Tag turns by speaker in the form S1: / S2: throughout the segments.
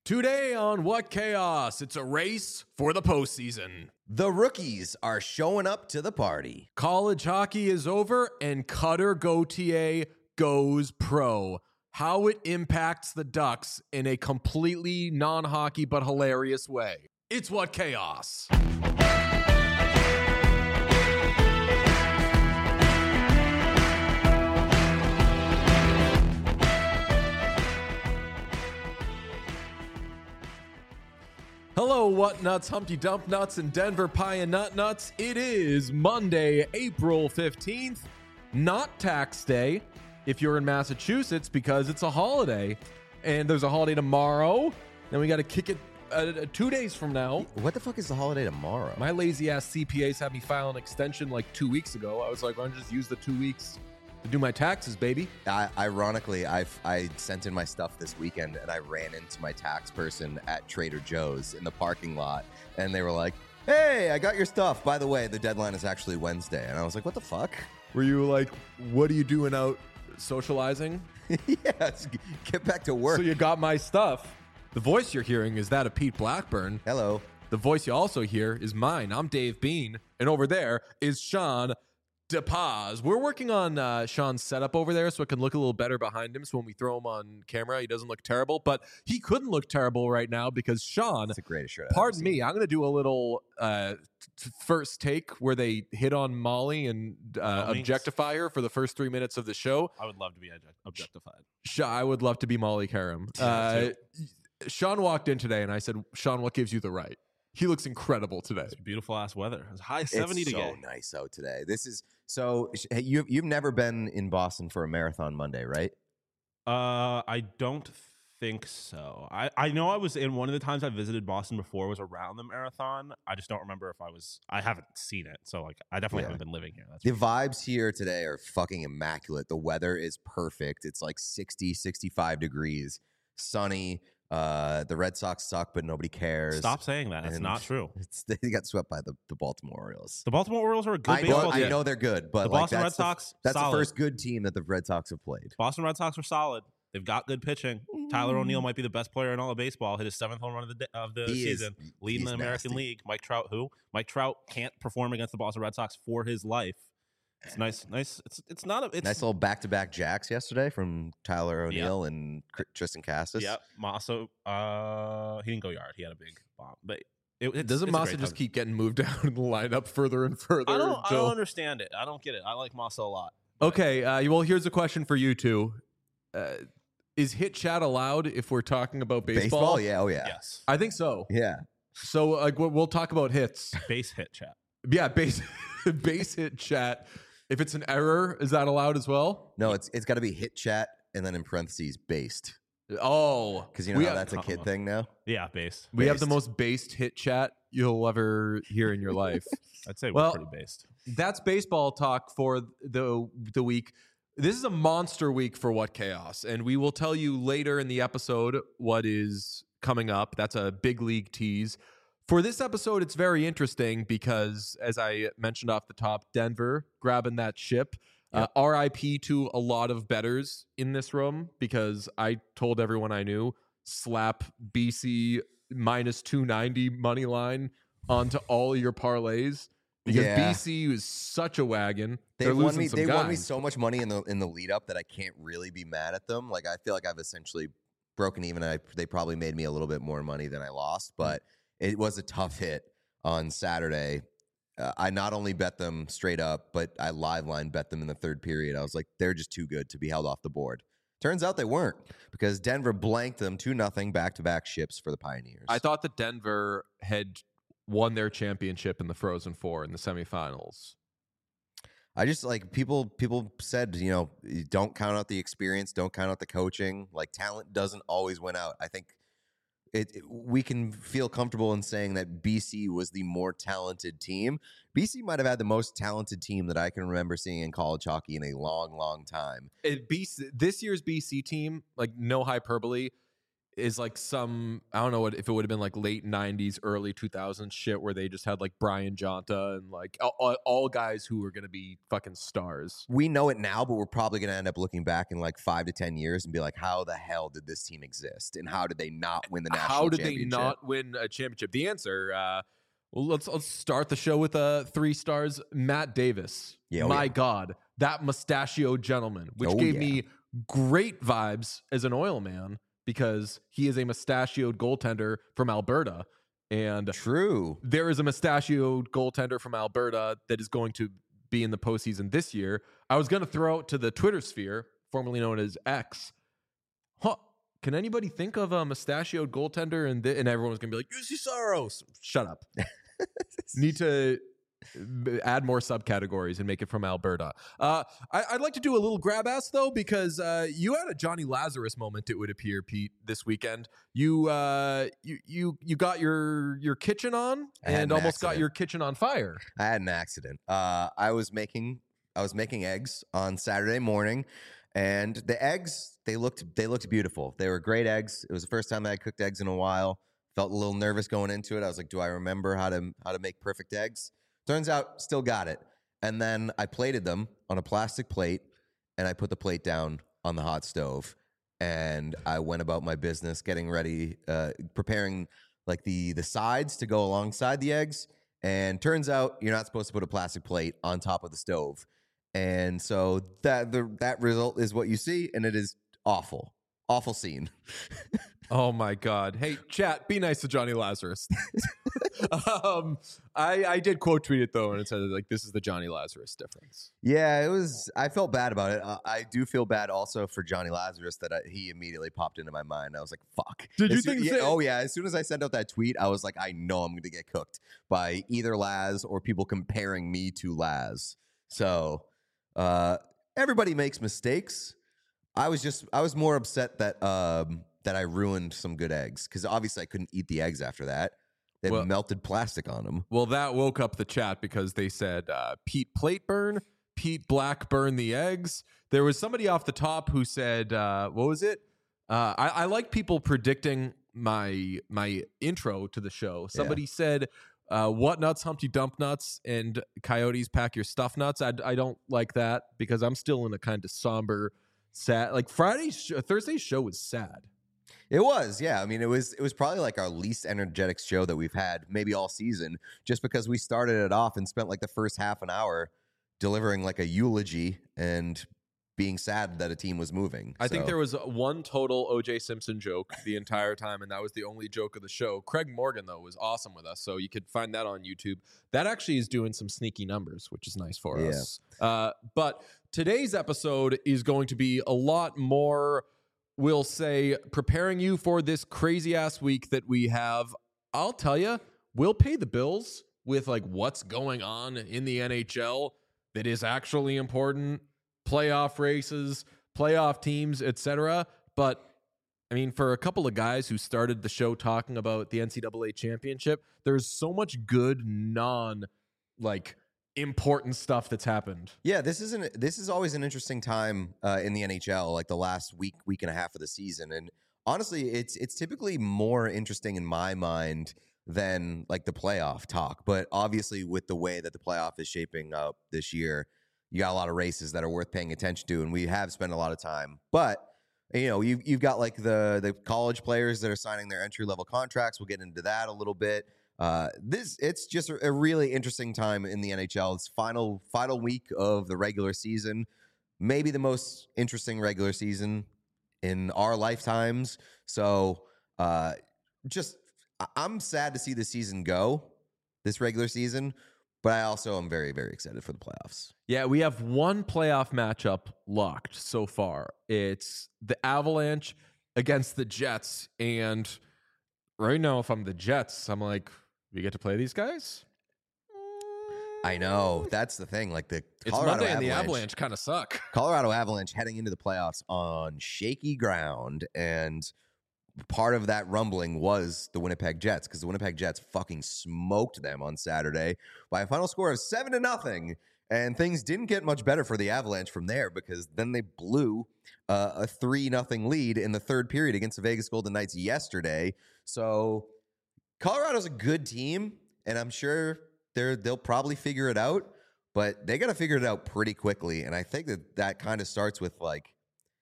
S1: Today on What Chaos, it's a race for the postseason.
S2: The rookies are showing up to the party.
S1: College hockey is over and Cutter Gauthier goes pro. How it impacts the Ducks in a completely non-hockey but hilarious way. It's What Chaos. Hello, What Nuts, Humpty Dump Nuts, and Denver Pie and Nut Nuts. It is Monday, April 15th, not tax day if you're in Massachusetts because it's a holiday. And there's a holiday tomorrow. Then we got to kick it 2 days from now.
S2: What the fuck is the holiday tomorrow?
S1: My lazy ass CPAs had me file an extension like 2 weeks ago. I was like, why don't you just use the 2 weeks to do my taxes, baby?
S2: Ironically, I sent in my stuff this weekend and I ran into my tax person at Trader Joe's in the parking lot and they were like, hey, I got your stuff. By the way, the deadline is actually Wednesday. And I was like, what the fuck?
S1: Were you like, what are you doing out socializing?
S2: Yes, get back to work.
S1: So you got my stuff. The voice you're hearing is that of Pete Blackburn.
S2: Hello.
S1: The voice you also hear is mine. I'm Dave Bean. And over there is Sean DePaz. We're working on Sean's setup over there so it can look a little better behind him. So when we throw him on camera, he doesn't look terrible. But he couldn't look terrible right now because Sean,
S2: That's the greatest shirt.
S1: pardon me, I'm going to do a little first take where they hit on Molly and objectify her for the first 3 minutes of the show.
S3: I would love to be objectified.
S1: I would love to be Molly Karam. Sean walked in today and I said, Sean, what gives you the right? He looks incredible today.
S3: It's beautiful ass weather. It's high 70
S2: it's
S3: today.
S2: so nice out today. This is so. You've never been in Boston for a marathon Monday, right?
S3: I don't think so. I know I was in one of the times I visited Boston before was around the marathon. I just don't remember if I was. I haven't seen it, so like I definitely haven't been living here. That's
S2: The vibes here today are fucking immaculate. The weather is perfect. It's like 60, 65 degrees, sunny. The Red Sox suck, but nobody cares.
S3: Stop saying that. It's
S2: And
S3: not true.
S2: They got swept by the Baltimore Orioles.
S3: The Baltimore Orioles are a good baseball team.
S2: I know they're good, but
S3: The
S2: like,
S3: Boston
S2: that's
S3: Red Sox,
S2: that's
S3: solid.
S2: the first good team that the Red Sox have played.
S3: Boston Red Sox are solid. They've got good pitching. Tyler O'Neill might be the best player in all of baseball. Hit his 7th home run of the season, leading the American League. Mike Trout, Mike Trout can't perform against the Boston Red Sox for his life. It's nice. It's not a
S2: Nice little back-to-back jacks yesterday from Tyler O'Neill and Tristan Cassis.
S3: Yep. Masso, he didn't go yard. He had a big bomb. But
S1: Doesn't Massa just keep getting moved down in the lineup further and further?
S3: I don't understand it. I don't get it. I like Massa a lot.
S1: Okay, well, here's a question for you two. Is hit chat allowed if we're talking about baseball?
S2: Yeah, oh yeah.
S3: Yes.
S1: I think so.
S2: Yeah.
S1: So like we'll talk about hits.
S3: Base hit chat.
S1: Yeah, base hit chat. If it's an error, is that allowed as well?
S2: No, it's got to be hit chat and then in parentheses based.
S1: Oh,
S2: Because you know how that's a kid thing now?
S3: Yeah, base.
S1: we have the
S2: based.
S1: most based hit chat you'll ever hear in your life.
S3: I'd say
S1: Well-
S3: we're pretty based.
S1: That's baseball talk for the week. This is a monster week for What Chaos, and we will tell you later in the episode what is coming up. That's a big league tease. For this episode, it's very interesting because, as I mentioned off the top, Denver grabbing that ship. RIP to a lot of bettors in this room because I told everyone I knew, slap BC minus 290 money line onto all your parlays because
S2: Yeah.
S1: BC is such a wagon.
S2: They
S1: They're
S2: won
S1: losing
S2: me.
S1: some
S2: They won me
S1: guys.
S2: so much money in the lead up that I can't really be mad at them. Like I feel like I've essentially broken even. They probably made me a little bit more money than I lost, but it was a tough hit on Saturday. I not only bet them straight up, but I live line bet them in the third period. I was like, they're just too good to be held off the board. Turns out they weren't because Denver blanked them 2-0 back-to-back ships for the Pioneers.
S1: I thought that Denver had won their championship in the Frozen Four in the semifinals.
S2: I just like people said, you know, don't count out the experience, don't count out the coaching. Like talent doesn't always win out. I think we can feel comfortable in saying that BC was the more talented team. BC might have had the most talented team that I can remember seeing in college hockey in a long, long time.
S1: This year's BC team, like no hyperbole, is like some, I don't know what if it would have been like late 90s, early 2000s shit where they just had like Brian Jonta and like all guys who were going to be fucking stars.
S2: We know it now, but we're probably going to end up looking back in like 5 to 10 years and be like, how the hell did this team exist? And how did they not win the national championship?
S1: How did they not win a championship? The answer, well, let's start the show with 3 stars. Matt Davis. My God, that mustachioed gentleman, which gave me great vibes as an Oil man, because he is a mustachioed goaltender from Alberta. And
S2: true,
S1: there is a mustachioed goaltender from Alberta that is going to be in the postseason this year. I was going to throw out to the Twitter sphere, formerly known as X. Can anybody think of a mustachioed goaltender? And everyone was going to be like, Juuse Saros. Shut up. Need to add more subcategories and make it from Alberta. I'd like to do a little grab ass though, because you had a Johnny Lazarus moment, it would appear, Pete, this weekend. You got your kitchen on and almost got your kitchen on fire.
S2: I had an accident. I was making eggs on Saturday morning, and the eggs they looked beautiful. They were great eggs. It was the first time I had cooked eggs in a while. Felt a little nervous going into it. I was like, do I remember how to make perfect eggs? Turns out, still got it. And then I plated them on a plastic plate, and I put the plate down on the hot stove. And I went about my business, getting ready, preparing like the sides to go alongside the eggs. And turns out, you're not supposed to put a plastic plate on top of the stove. And so that result is what you see, and it is awful. Awful scene.
S1: Oh my God. Hey, chat, be nice to Johnny Lazarus. I did quote tweet it though, and it said like, this is the Johnny Lazarus difference.
S2: Yeah, I felt bad about it. I do feel bad also for Johnny Lazarus that he immediately popped into my mind. I was like, fuck.
S1: Did you think
S2: so? Oh yeah. As soon as I sent out that tweet, I was like, I know I'm going to get cooked by either Laz or people comparing me to Laz. So everybody makes mistakes. I was more upset that I ruined some good eggs, because obviously I couldn't eat the eggs after that. They had melted plastic on them.
S1: Well, that woke up the chat because they said Pete plate burn, Pete black burn the eggs. There was somebody off the top who said, what was it? I like people predicting my intro to the show. Somebody said, what nuts, Humpty Dump nuts, and Coyotes pack your stuff nuts. I don't like that, because I'm still in a kind of somber, sad, like Thursday's show was sad.
S2: It was, yeah. I mean, it was probably like our least energetic show that we've had maybe all season, just because we started it off and spent like the first half an hour delivering like a eulogy and being sad that a team was moving.
S1: I think there was one total O.J. Simpson joke the entire time, and that was the only joke of the show. Craig Morgan, though, was awesome with us, so you could find that on YouTube. That actually is doing some sneaky numbers, which is nice for us. But today's episode is going to be a lot more, we'll say, preparing you for this crazy-ass week that we have. I'll tell you, we'll pay the bills with like what's going on in the NHL that is actually important. Playoff races, playoff teams, etc. But I mean, for a couple of guys who started the show talking about the NCAA championship, there's so much good important stuff that's happened.
S2: Yeah, this is always an interesting time in the NHL, like the last week and a half of the season. And honestly, it's typically more interesting in my mind than like the playoff talk. But obviously, with the way that the playoff is shaping up this year, you got a lot of races that are worth paying attention to, and we have spent a lot of time. But you know, you've got like the college players that are signing their entry-level contracts. We'll get into that a little bit. It's just a really interesting time in the NHL. It's final week of the regular season, maybe the most interesting regular season in our lifetimes. So I'm sad to see the season go, this regular season. But I also am very, very excited for the playoffs.
S1: Yeah, we have one playoff matchup locked so far. It's the Avalanche against the Jets. And right now, if I'm the Jets, I'm like, we get to play these guys?
S2: I know. That's the thing. Like
S1: it's Monday and the Avalanche kind of suck.
S2: Colorado Avalanche heading into the playoffs on shaky ground. And part of that rumbling was the Winnipeg Jets, because the Winnipeg Jets fucking smoked them on Saturday by a final score of 7-0. And things didn't get much better for the Avalanche from there because then they blew a 3-0 lead in the third period against the Vegas Golden Knights yesterday. So Colorado's a good team, and I'm sure they'll probably figure it out, but they got to figure it out pretty quickly. And I think that kind of starts with, like,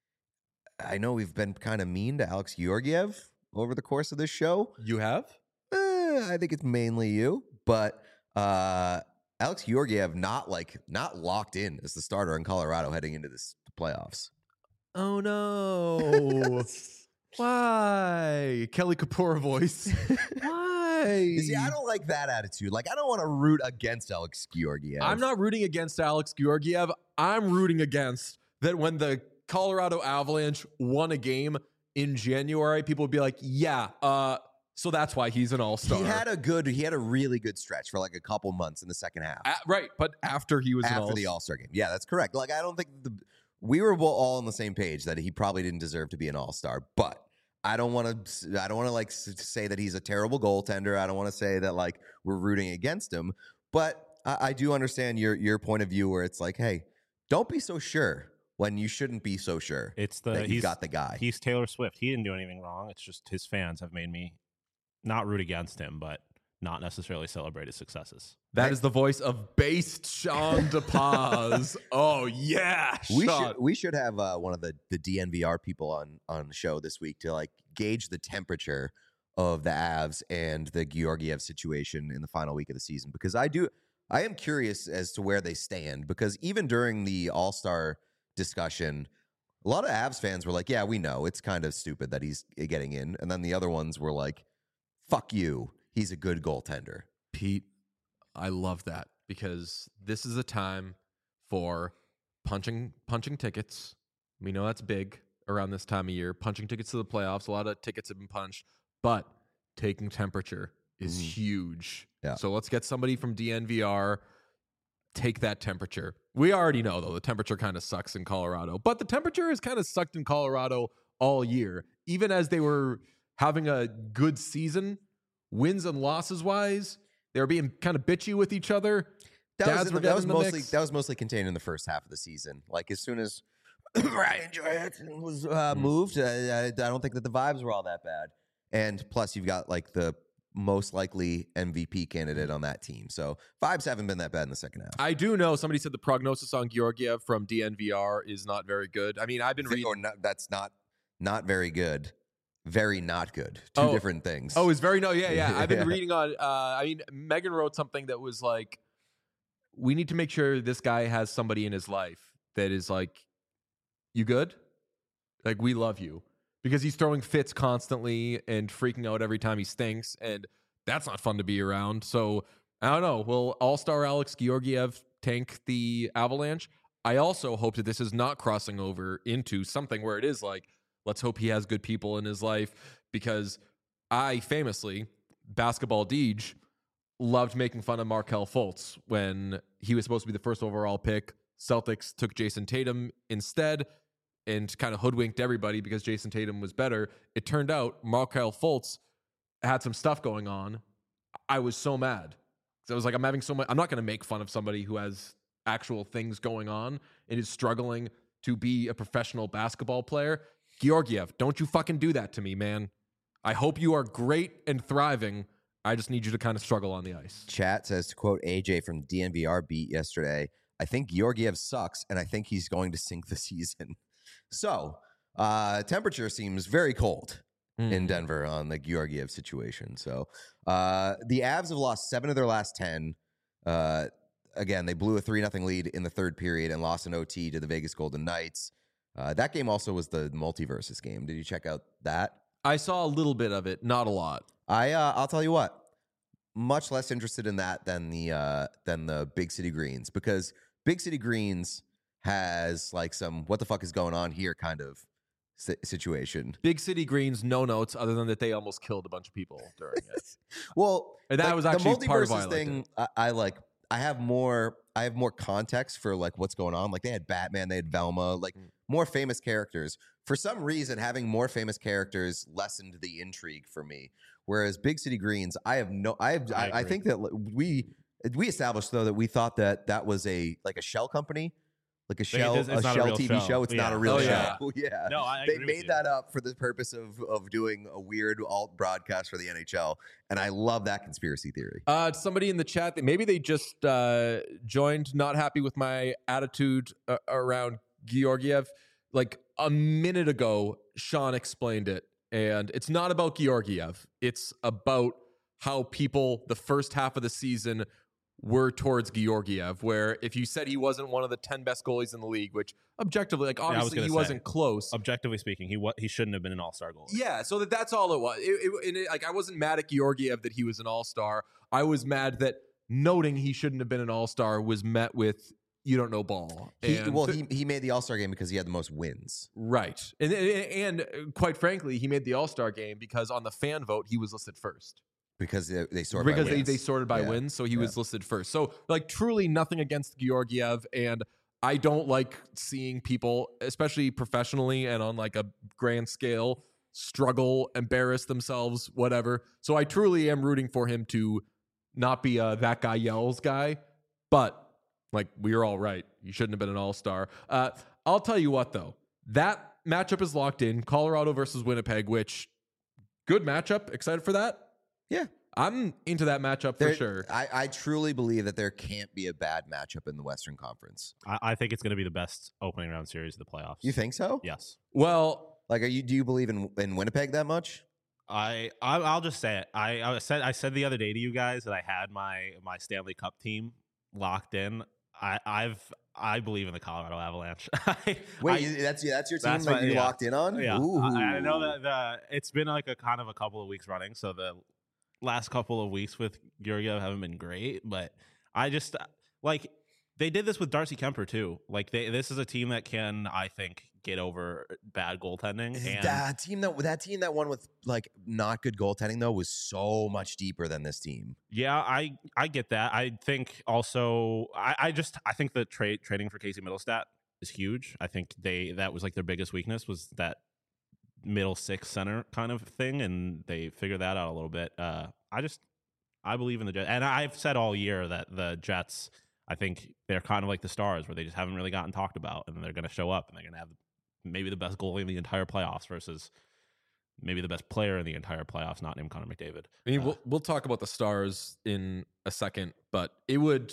S2: I know we've been kind of mean to Alex Georgiev over the course of this show.
S1: You have?
S2: I think it's mainly you, but Alex Georgiev not locked in as the starter in Colorado heading into this playoffs.
S1: Oh no! Why, Kelly Kapoor voice? Why?
S2: You see, I don't like that attitude. Like, I don't want to root against Alex Georgiev.
S1: I'm not rooting against Alex Georgiev. I'm rooting against that when the Colorado Avalanche won a game in January, people would be like, "Yeah, so that's why he's an all-star."
S2: He had a really good stretch for like a couple months in the second half.
S1: Right, but after he was
S2: after the All-Star game. Yeah, that's correct. Like, I don't think we were all on the same page that he probably didn't deserve to be an all-star, but I don't want to like say that he's a terrible goaltender. I don't want to say that like we're rooting against him, but I do understand your point of view where it's like, hey, don't be so sure when you shouldn't be so sure.
S3: It's
S2: that you got the guy.
S3: He's Taylor Swift. He didn't do anything wrong. It's just his fans have made me not root against him, but not necessarily celebrate his successes.
S1: That is the voice of based Sean DePaz. Oh yeah,
S2: we should have one of the DNVR people on the show this week to like gauge the temperature of the Avs and the Georgiev situation in the final week of the season, because I am curious as to where they stand, because even during the All-Star discussion, a lot of Avs fans were like, yeah, we know it's kind of stupid that he's getting in, and then the other ones were like, fuck you, he's a good goaltender.
S1: Pete, I love that, because this is a time for punching tickets. We know that's big around this time of year. Punching tickets to the playoffs. A lot of tickets have been punched, but taking temperature is huge.
S2: Yeah.
S1: So let's get somebody from DNVR, take that temperature. We already know, though, the temperature kind of sucks in Colorado, but the temperature has kind of sucked in Colorado all year. Even as they were having a good season, wins and losses wise, they were being kind of bitchy with each other.
S2: That was mostly contained in the first half of the season. Like, as soon as Ryan Johansson was moved, I don't think that the vibes were all that bad. And plus, you've got like the most likely MVP candidate on that team, so vibes haven't been that bad in the second half.
S1: I do know somebody said the prognosis on Georgiev from DNVR is not very good. I mean, I've been reading.
S2: That's not very good. Very not good. Two different things.
S1: Oh, it's very no. Yeah. I've been reading on. I mean, Megan wrote something that was like, we need to make sure this guy has somebody in his life that is like, you good? Like, we love you, because he's throwing fits constantly and freaking out every time he stinks, and that's not fun to be around. So I don't know. Will All-Star Alex Georgiev tank the Avalanche? I also hope that this is not crossing over into something where it is like, let's hope he has good people in his life, because I famously, Basketball Deej, loved making fun of Markelle Fultz when he was supposed to be the first overall pick. Celtics took Jason Tatum instead and kind of hoodwinked everybody because Jason Tatum was better. It turned out Markelle Fultz had some stuff going on. I was so mad. So I was like, I'm not going to make fun of somebody who has actual things going on and is struggling to be a professional basketball player. Georgiev, don't you fucking do that to me, man. I hope you are great and thriving. I just need you to kind of struggle on the ice.
S2: Chat says, to quote AJ from DNVR beat yesterday, I think Georgiev sucks, and I think he's going to sink the season. So, temperature seems very cold in Denver on the Georgiev situation. So, the Avs have lost 7 of their last 10. Again, they blew a 3-0 lead in the third period and lost an OT to the Vegas Golden Knights. That game also was the multiverses game. Did you check out that?
S1: I saw a little bit of it, not a lot.
S2: I'll tell you what, much less interested in that than the Big City Greens, because Big City Greens has like some what the fuck is going on here kind of situation.
S1: Big City Greens, no notes other than that they almost killed a bunch of people during it.
S2: Well,
S1: and that
S2: like,
S1: was actually
S2: the
S1: part of why I
S2: thing. I have more context for like what's going on. Like, they had Batman, they had Velma, like more famous characters. For some reason, having more famous characters lessened the intrigue for me. Whereas Big City Greens, I think that we We established though that we thought that was a shell company. Like a shell TV show. It's not a real show. Yeah.
S3: No, I
S2: They
S3: agree with
S2: made
S3: you.
S2: that up for the purpose of doing a weird alt broadcast for the NHL. And I love that conspiracy theory.
S1: Somebody in the chat that maybe they just joined, not happy with my attitude around Georgiev. Like a minute ago, Sean explained it. And it's not about Georgiev. It's about how people the first half of the season were towards Georgiev, where if you said he wasn't one of the 10 best goalies in the league, which objectively, like obviously he wasn't close.
S3: Objectively speaking, he shouldn't have been an all-star goalie.
S1: Yeah, so that's all it was. Like I wasn't mad at Georgiev that he was an all-star. I was mad that noting he shouldn't have been an all-star was met with you don't know ball.
S2: He made the All-Star game because he had the most wins.
S1: Right. And quite frankly, he made the All-Star game because on the fan vote, he was listed first.
S2: Because they sorted by wins.
S1: They sorted by wins, so he was listed first. So, like, truly nothing against Georgiev, and I don't like seeing people, especially professionally and on, like, a grand scale, struggle, embarrass themselves, whatever. So I truly am rooting for him to not be a that guy yells guy, but, like, we are all right. He shouldn't have been an all-star. I'll tell you what, though. That matchup is locked in. Colorado versus Winnipeg, which, good matchup. Excited for that?
S2: Yeah.
S1: I'm into that matchup for sure.
S2: I truly believe that there can't be a bad matchup in the Western Conference.
S3: I think it's going to be the best opening round series of the playoffs.
S2: You think so?
S3: Yes.
S1: Well,
S2: like, do you believe in Winnipeg that much?
S3: I'll just say it. I said the other day to you guys that I had my Stanley Cup team locked in. I believe in the Colorado Avalanche.
S2: That's your team that you locked in on?
S3: Yeah. I know that it's been like a couple of weeks running, so the last couple of weeks with Georgiev haven't been great, but I just like they did this with Darcy Kemper too. Like this is a team that can, I think, get over bad goaltending. And
S2: that team that won with like not good goaltending though was so much deeper than this team.
S3: Yeah, I get that. I think also I think the trading for Casey Middlestat is huge. I think that was like their biggest weakness was that middle six center kind of thing, and they figured that out a little bit. I believe in the Jets, and I've said all year that the Jets, I think they're kind of like the Stars, where they just haven't really gotten talked about, and they're going to show up, and they're going to have maybe the best goalie in the entire playoffs versus maybe the best player in the entire playoffs, not named Connor McDavid.
S1: I mean, we'll talk about the Stars in a second, but it would.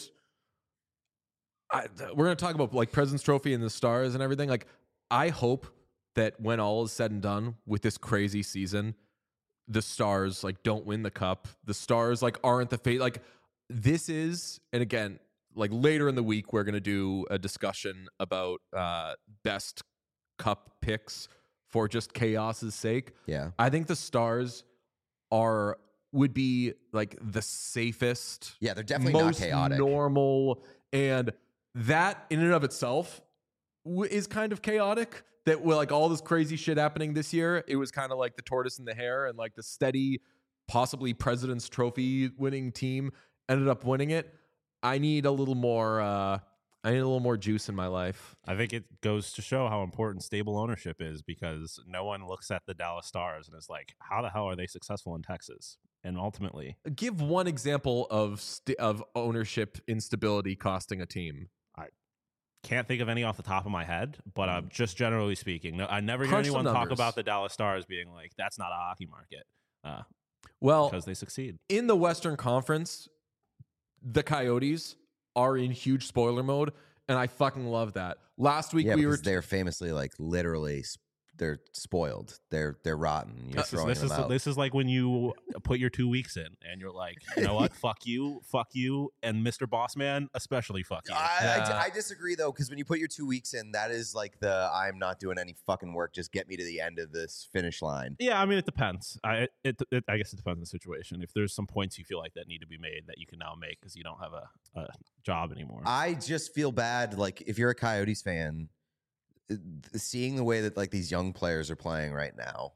S1: We're going to talk about like President's Trophy and the Stars and everything. Like, I hope that when all is said and done with this crazy season, the Stars like don't win the cup. The Stars like aren't the fate. Like this is, and again, like later in the week, we're gonna do a discussion about best cup picks for just chaos's sake.
S2: Yeah,
S1: I think the Stars would be like the safest.
S2: Yeah, they're definitely
S1: most
S2: not chaotic,
S1: normal, and that in and of itself is kind of chaotic. That with like all this crazy shit happening this year, it was kind of like the tortoise and the hare, and like the steady, possibly President's Trophy winning team ended up winning it. I need a little more juice in my life.
S3: I think it goes to show how important stable ownership is, because no one looks at the Dallas Stars and is like, how the hell are they successful in Texas? And ultimately,
S1: give one example of ownership instability costing a team.
S3: Can't think of any off the top of my head, but just generally speaking, I never hear anyone talk about the Dallas Stars being like, that's not a hockey market.
S1: Well,
S3: because they succeed.
S1: In the Western Conference, the Coyotes are in huge spoiler mode, and I fucking love that. Last week
S2: they're famously like literally they're spoiled. They're rotten. You're throwing them out.
S3: This is like when you put your 2 weeks in and you're like, you know what? fuck you, and Mr. Bossman, especially fuck you.
S2: I disagree though, because when you put your 2 weeks in, that is like I'm not doing any fucking work. Just get me to the end of this finish line.
S3: Yeah, I mean it depends. I guess it depends on the situation. If there's some points you feel like that need to be made that you can now make because you don't have a job anymore.
S2: I just feel bad. Like if you're a Coyotes fan, seeing the way that like these young players are playing right now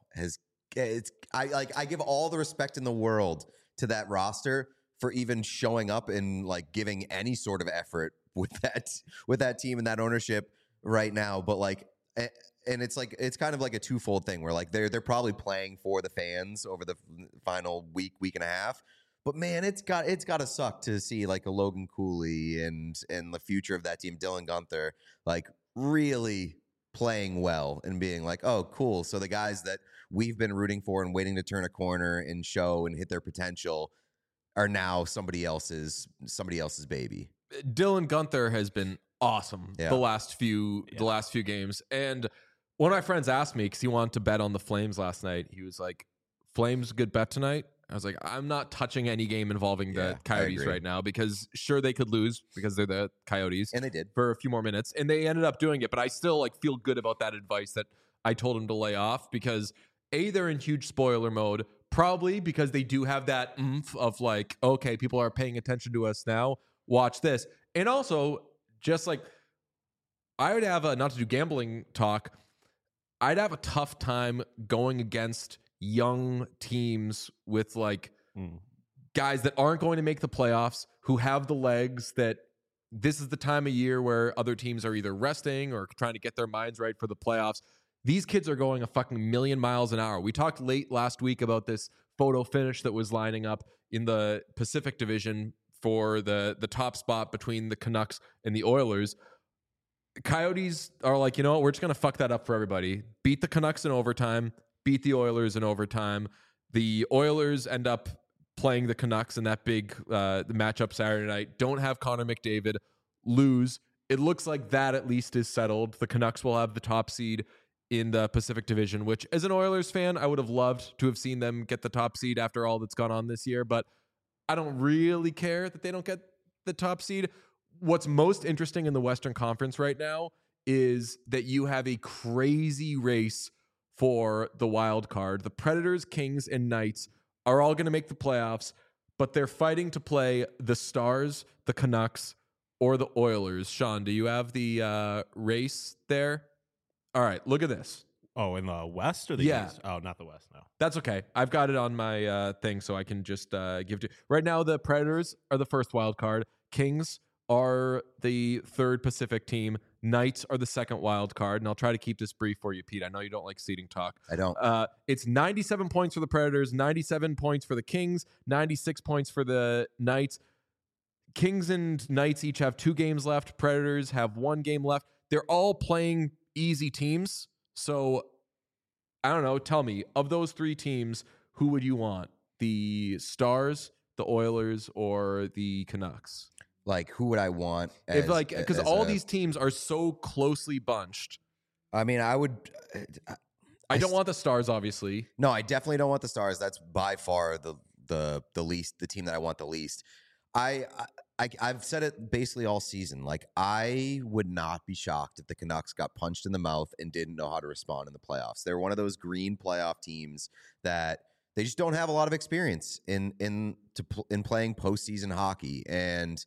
S2: I give all the respect in the world to that roster for even showing up and like giving any sort of effort with that team and that ownership right now. But like, and it's kind of like a twofold thing where like they're probably playing for the fans over the final week and a half. But man, it's got to suck to see like a Logan Cooley and the future of that team, Dylan Guenther, like really playing well and being like, oh, cool. So the guys that we've been rooting for and waiting to turn a corner and show and hit their potential are now somebody else's baby.
S1: Dylan Guenther has been awesome the last few games. And one of my friends asked me, because he wanted to bet on the Flames last night, he was like, Flames good bet tonight? I was like, I'm not touching any game involving the Coyotes right now, because sure, they could lose because they're the Coyotes.
S2: And they did.
S1: For a few more minutes. And they ended up doing it. But I still like feel good about that advice that I told him to lay off, because A, they're in huge spoiler mode, probably because they do have that oomph of like, okay, people are paying attention to us now. Watch this. And also, just like, I would have not to do gambling talk, I'd have a tough time going against young teams with like guys that aren't going to make the playoffs, who have the legs, that this is the time of year where other teams are either resting or trying to get their minds right for the playoffs. These kids are going a fucking million miles an hour. We talked late last week about this photo finish that was lining up in the Pacific Division for the top spot between the Canucks and the Oilers. Coyotes are like, you know what? We're just going to fuck that up for everybody. Beat the Canucks in overtime, beat the Oilers in overtime. The Oilers end up playing the Canucks in that big the matchup Saturday night. Don't have Connor McDavid, lose. It looks like that at least is settled. The Canucks will have the top seed in the Pacific Division, which as an Oilers fan, I would have loved to have seen them get the top seed after all that's gone on this year, but I don't really care that they don't get the top seed. What's most interesting in the Western Conference right now is that you have a crazy race for the wild card. The Predators, Kings, and Knights are all going to make the playoffs, but they're fighting to play the Stars, the Canucks, or the Oilers. Sean, do you have the race there? All right, look at this.
S3: Oh, in the West or the East? Oh, not the West, no.
S1: That's okay. I've got it on my thing, so I can just give it to you. Right now, the Predators are the first wild card. Kings are the third Pacific team. Knights are the second wild card. And I'll try to keep this brief for you, Pete. I know you don't like seeding talk.
S2: I don't.
S1: It's 97 points for the Predators, 97 points for the Kings, 96 points for the Knights. Kings and Knights each have 2 games left. Predators have 1 game left. They're all playing easy teams. So, I don't know. Tell me, of those 3 teams, who would you want? The Stars, the Oilers, or the Canucks?
S2: Like, who would I want?
S1: Because all these teams are so closely bunched.
S2: I mean, I would.
S1: I don't want the Stars, obviously.
S2: No, I definitely don't want the Stars. That's by far the least, the team that I want the least. I've said it basically all season. Like, I would not be shocked if the Canucks got punched in the mouth and didn't know how to respond in the playoffs. They're one of those green playoff teams that they just don't have a lot of experience in playing postseason hockey. And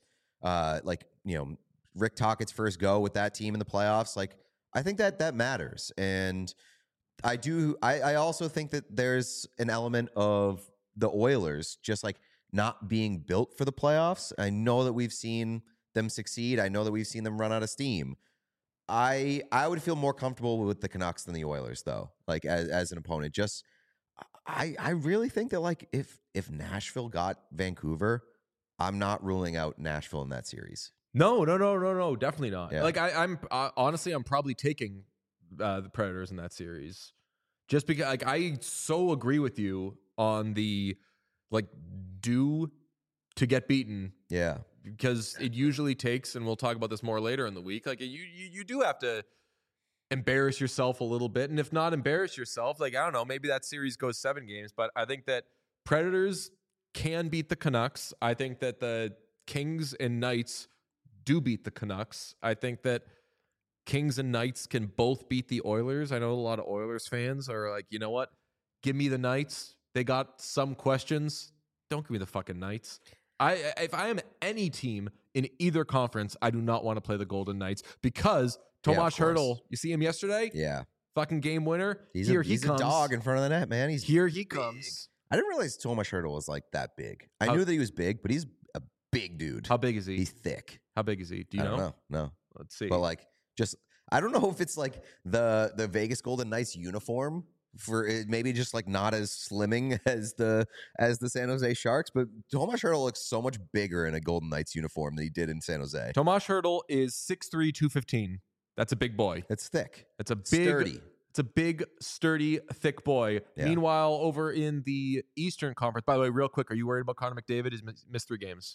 S2: Rick Tocchet's first go with that team in the playoffs, like, I think that matters. And I also think that there's an element of the Oilers just like not being built for the playoffs. I know that we've seen them succeed. I know that we've seen them run out of steam. I would feel more comfortable with the Canucks than the Oilers, though, like as an opponent. Just I really think that, like, if Nashville got Vancouver, I'm not ruling out Nashville in that series.
S1: No, definitely not. Yeah. Like, I'm honestly, I'm probably taking the Predators in that series, just because, like, I so agree with you on the, like, due to get beaten.
S2: Yeah,
S1: because it usually takes, and we'll talk about this more later in the week. Like, you do have to embarrass yourself a little bit, and if not embarrass yourself, like, I don't know, maybe that series goes 7 games. But I think that Predators can beat the Canucks. I think that the Kings and Knights do beat the Canucks. I think that Kings and Knights can both beat the Oilers. I know a lot of Oilers fans are like, you know what? Give me the Knights. They got some questions. Don't give me the fucking Knights. If I am any team in either conference, I do not want to play the Golden Knights, because Tomas Hertl, you see him yesterday?
S2: Yeah.
S1: Fucking game winner.
S2: He's a dog in front of the net, man.
S1: Here he comes.
S2: I didn't realize Tomas Hertl was like that big. I knew that he was big, but he's a big dude.
S1: How big is he?
S2: He's thick.
S1: How big is he? Do you know?
S2: I don't know. No.
S1: Let's see.
S2: But like, just, I don't know if it's like the Vegas Golden Knights uniform for it, maybe just like not as slimming as the San Jose Sharks, but Tomas Hertl looks so much bigger in a Golden Knights uniform than he did in San Jose.
S1: Tomas Hertl is 6'3", 215. That's a big boy.
S2: It's thick.
S1: It's a big,
S2: sturdy.
S1: It's a big, sturdy, thick boy.
S2: Yeah.
S1: Meanwhile, over in the Eastern Conference, by the way, real quick, are you worried about Connor McDavid? He's missed 3 games.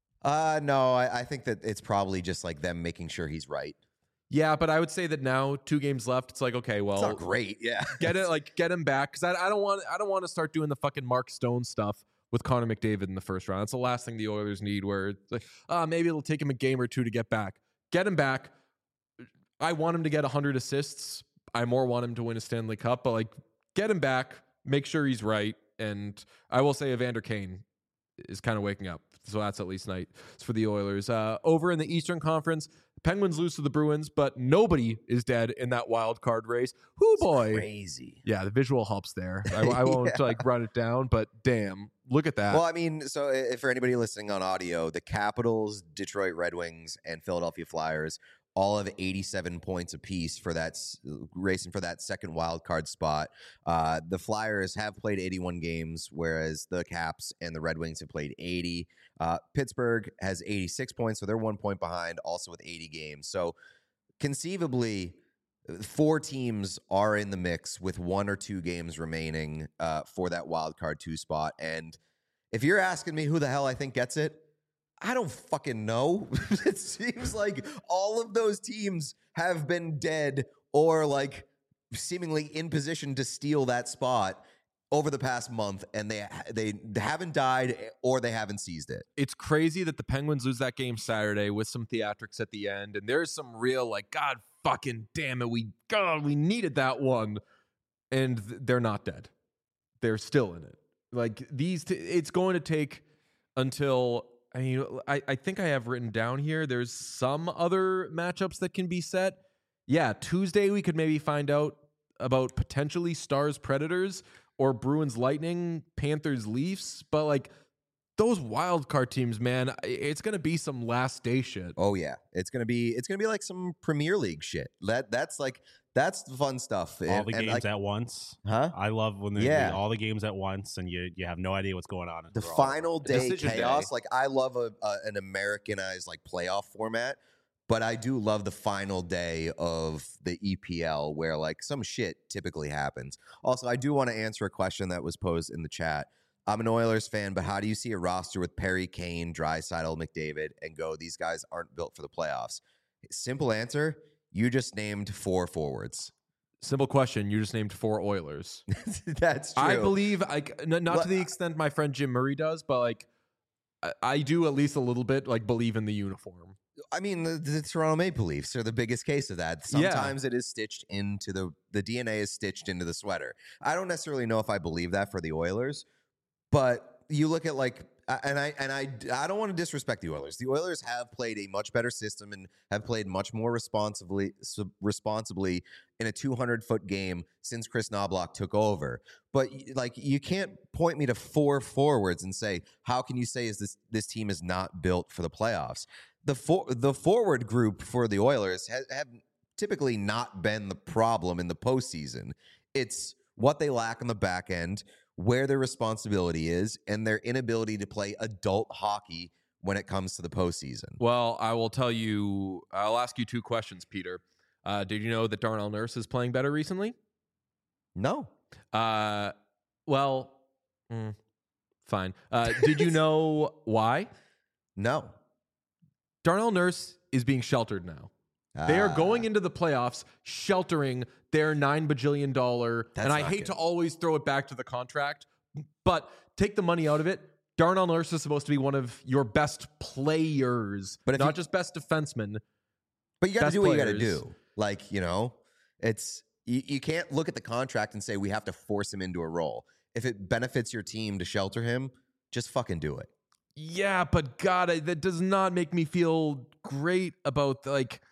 S2: No, I think that it's probably just like them making sure he's right.
S1: Yeah, but I would say that now 2 games left. It's like, okay, well,
S2: it's not great. Yeah,
S1: get him back, because I don't want to start doing the fucking Mark Stone stuff with Connor McDavid in the first round. That's the last thing the Oilers need. Where it's like, maybe it'll take him a game or 2 to get back. Get him back. I want him to get 100 assists. I more want him to win a Stanley Cup, but like, get him back. Make sure he's right. And I will say Evander Kane is kind of waking up. So that's at least nice for the Oilers. Over in the Eastern Conference, Penguins lose to the Bruins, but nobody is dead in that wild card race. Hoo boy.
S2: Crazy.
S1: Yeah, the visual helps there. I won't like run it down, but damn, look at that.
S2: Well, I mean, so if for anybody listening on audio, the Capitals, Detroit Red Wings, and Philadelphia Flyers all have 87 points apiece for that racing for that second wild card spot. The Flyers have played 81 games, whereas the Caps and the Red Wings have played 80. Pittsburgh has 86 points, so they're 1 point behind, also with 80 games. So conceivably, 4 teams are in the mix with 1 or 2 games remaining for that wild card 2 spot. And if you're asking me who the hell I think gets it, I don't fucking know. It seems like all of those teams have been dead or like seemingly in position to steal that spot over the past month, and they haven't died or they haven't seized it.
S1: It's crazy that the Penguins lose that game Saturday with some theatrics at the end, and there's some real like, God fucking damn it, we needed that one, and they're not dead. They're still in it. Like it's going to take until. I mean, I think I have written down here, there's some other matchups that can be set. Yeah, Tuesday we could maybe find out about potentially Stars Predators or Bruins Lightning, Panthers Leafs. But like those wild card teams, man, it's going to be some last day shit.
S2: Oh yeah, it's going to be like some Premier League shit. That's the fun stuff.
S3: All the games at once.
S2: Huh?
S3: I love when they all the games at once and you have no idea what's going on.
S2: The final day chaos.
S1: Day.
S2: Like I love an Americanized like playoff format, but I do love the final day of the EPL where like some shit typically happens. Also, I do want to answer a question that was posed in the chat. I'm an Oilers fan, but how do you see a roster with Perry, Kane, Draisaitl, McDavid, and go, these guys aren't built for the playoffs? Simple answer. You just named 4 forwards.
S1: Simple question. You just named 4 Oilers.
S2: That's true.
S1: I believe, not to the extent my friend Jim Murray does, but like I do at least a little bit like believe in the uniform.
S2: I mean, the Toronto Maple Leafs are the biggest case of that. Sometimes it is stitched into the DNA is stitched into the sweater. I don't necessarily know if I believe that for the Oilers, but you look at like. I don't want to disrespect the Oilers. The Oilers have played a much better system and have played much more responsibly in a 200-foot game since Chris Knoblauch took over. But like, you can't point me to 4 forwards and say, how can you say this team is not built for the playoffs? The forward group for the Oilers have typically not been the problem in the postseason. It's what they lack on the back end, where their responsibility is, and their inability to play adult hockey when it comes to the postseason.
S1: Well, I'll ask you 2 questions, Peter. Did you know that Darnell Nurse is playing better recently?
S2: No.
S1: Fine. Did you know why?
S2: No.
S1: Darnell Nurse is being sheltered now. They are going into the playoffs sheltering their $9 bajillion, and I hate to always throw it back to the contract, but take the money out of it. Darnell Nurse is supposed to be one of your best players, but not just best defensemen.
S2: But you got to do what you got to do. Like, it's you can't look at the contract and say we have to force him into a role. If it benefits your team to shelter him, just fucking do it.
S1: Yeah, but God, that does not make me feel great about like.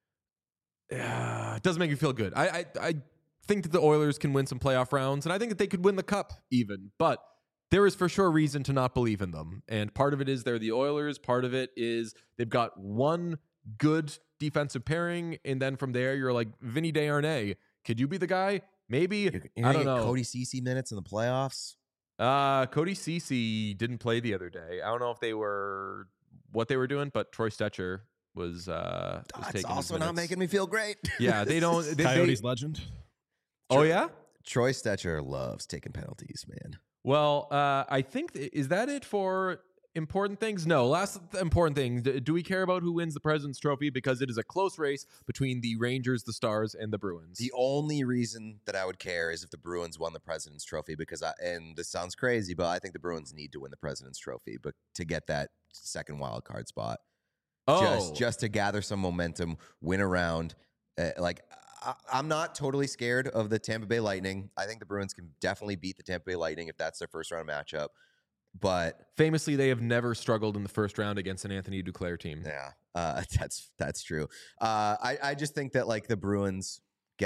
S1: It doesn't make me feel good. I think that the Oilers can win some playoff rounds, and I think that they could win the cup even. But there is for sure reason to not believe in them. And part of it is they're the Oilers. Part of it is they've got one good defensive pairing, and then from there you're like, Vinny Desharnais, could you be the guy? Maybe
S2: You're
S1: I don't know.
S2: Cody Ceci minutes in the playoffs.
S1: Cody Ceci didn't play the other day. I don't know if they were what they were doing, but Troy Stetcher was
S2: That's
S1: taking
S2: also not making me feel great.
S1: Yeah, they don't.
S3: Coyotes legend.
S1: Oh yeah,
S2: Troy Stetcher loves taking penalties, man.
S1: Well, I think is that it for important things? No, last important thing. Do we care about who wins the President's Trophy? Because it is a close race between the Rangers, the Stars, and the Bruins.
S2: The only reason that I would care is if the Bruins won the President's Trophy, because and this sounds crazy, but I think the Bruins need to win the President's Trophy, but to get that second wild card spot, just to gather some momentum, win a round. I'm not totally scared of the Tampa Bay Lightning. I think the Bruins can definitely beat the Tampa Bay Lightning if that's their first round matchup. But
S1: famously, they have never struggled in the first round against an Anthony Duclair team.
S2: Yeah, that's true. I just think that like the Bruins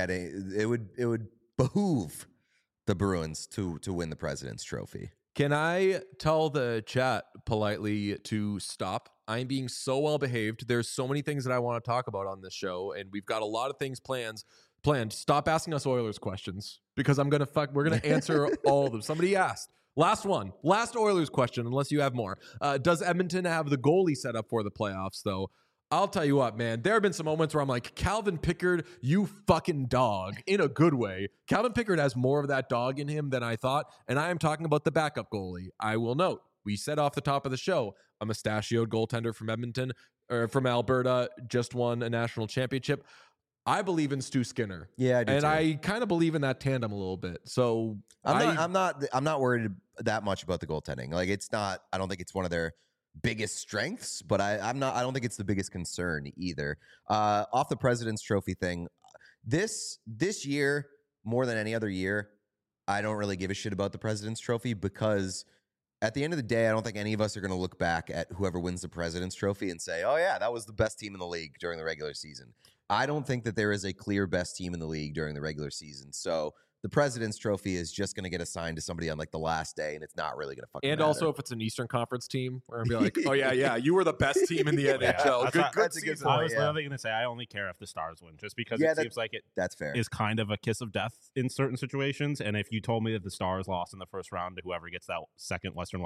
S2: it would behoove the Bruins to win the President's Trophy.
S1: Can I tell the chat politely to stop? I'm being so well behaved. There's so many things that I want to talk about on this show, and we've got a lot of things planned. Stop asking us Oilers questions because we're gonna answer all of them. Somebody asked. Last Oilers question, unless you have more. Does Edmonton have the goalie set up for the playoffs, though? I'll tell you what, man. There have been some moments where I'm like, Calvin Pickard, you fucking dog, in a good way. Calvin Pickard has more of that dog in him than I thought, and I am talking about the backup goalie. I will note, we said off the top of the show, a mustachioed goaltender from Edmonton, or from Alberta, just won a national championship. I believe in Stu Skinner.
S2: Yeah, I do
S1: and
S2: too.
S1: I kind of believe in that tandem a little bit. So
S2: I'm not worried that much about the goaltending. Like it's not. I don't think it's one of their biggest strengths, but I don't think it's the biggest concern either. Off the President's Trophy thing, this year more than any other year, I don't really give a shit about the President's Trophy because at the end of the day, I don't think any of us are going to look back at whoever wins the President's Trophy and say, "Oh yeah, that was the best team in the league during the regular season." I don't think that there is a clear best team in the league during the regular season. So the President's Trophy is just going to get assigned to somebody on like the last day, and it's not really going to fucking matter.
S1: Also, if it's an Eastern Conference team, where I'll be like, "Oh yeah, you were the best team in the NHL."
S3: That's a good season. I was literally going to say I only care if the Stars win, just because it seems like
S2: that's fair.
S3: Is kind of a kiss of death in certain situations. And if you told me that the Stars lost in the first round to whoever gets that second Western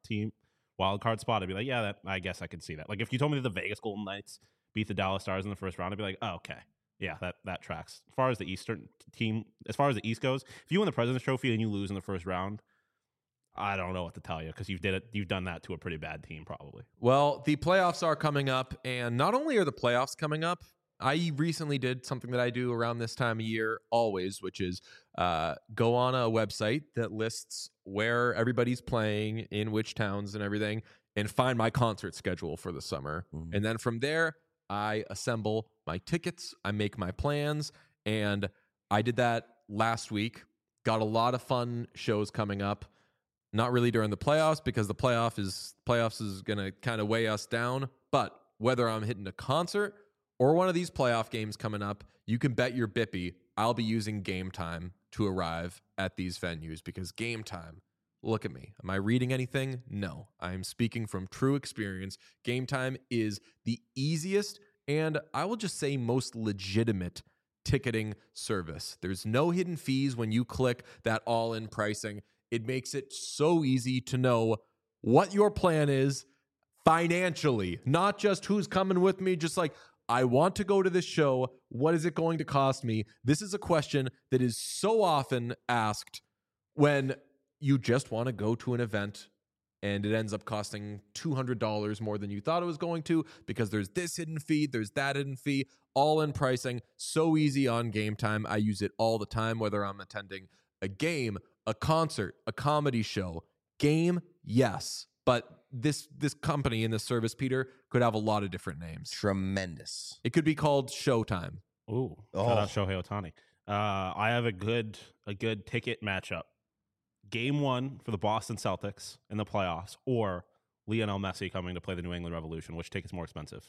S3: wildcard spot, I'd be like, yeah, I guess I could see that. Like if you told me that the Vegas Golden Knights beat the Dallas Stars in the first round, I'd be like, oh, okay. Yeah, that tracks. As far as the East goes, if you win the President's Trophy and you lose in the first round, I don't know what to tell you because you've done that to a pretty bad team probably.
S1: Well, the playoffs are coming up, and not only are the playoffs coming up, I recently did something that I do around this time of year always, which is go on a website that lists where everybody's playing, in which towns and everything, and find my concert schedule for the summer. Mm-hmm. And then from there, I assemble my tickets, I make my plans, and I did that last week. Got a lot of fun shows coming up. Not really during the playoffs because the playoffs is going to kind of weigh us down. But whether I'm hitting a concert or one of these playoff games coming up, you can bet your bippy I'll be using Game Time to arrive at these venues because Game Time, look at me. Am I reading anything? No. I'm speaking from true experience. Game Time is the easiest and I will just say most legitimate ticketing service. There's no hidden fees when you click that all-in pricing. It makes it so easy to know what your plan is financially, not just who's coming with me, just like, I want to go to this show. What is it going to cost me? This is a question that is so often asked when you just want to go to an event and it ends up costing $200 more than you thought it was going to because there's this hidden fee, there's that hidden fee, all in pricing. So easy on Game Time. I use it all the time, whether I'm attending a game, a concert, a comedy show. Game, yes. But this company and this service, Peter, could have a lot of different names.
S2: Tremendous.
S1: It could be called Showtime.
S3: Ooh, shout out Shohei Ohtani. I have a good ticket matchup. Game 1 for the Boston Celtics in the playoffs, or Lionel Messi coming to play the New England Revolution. Which ticket's more expensive?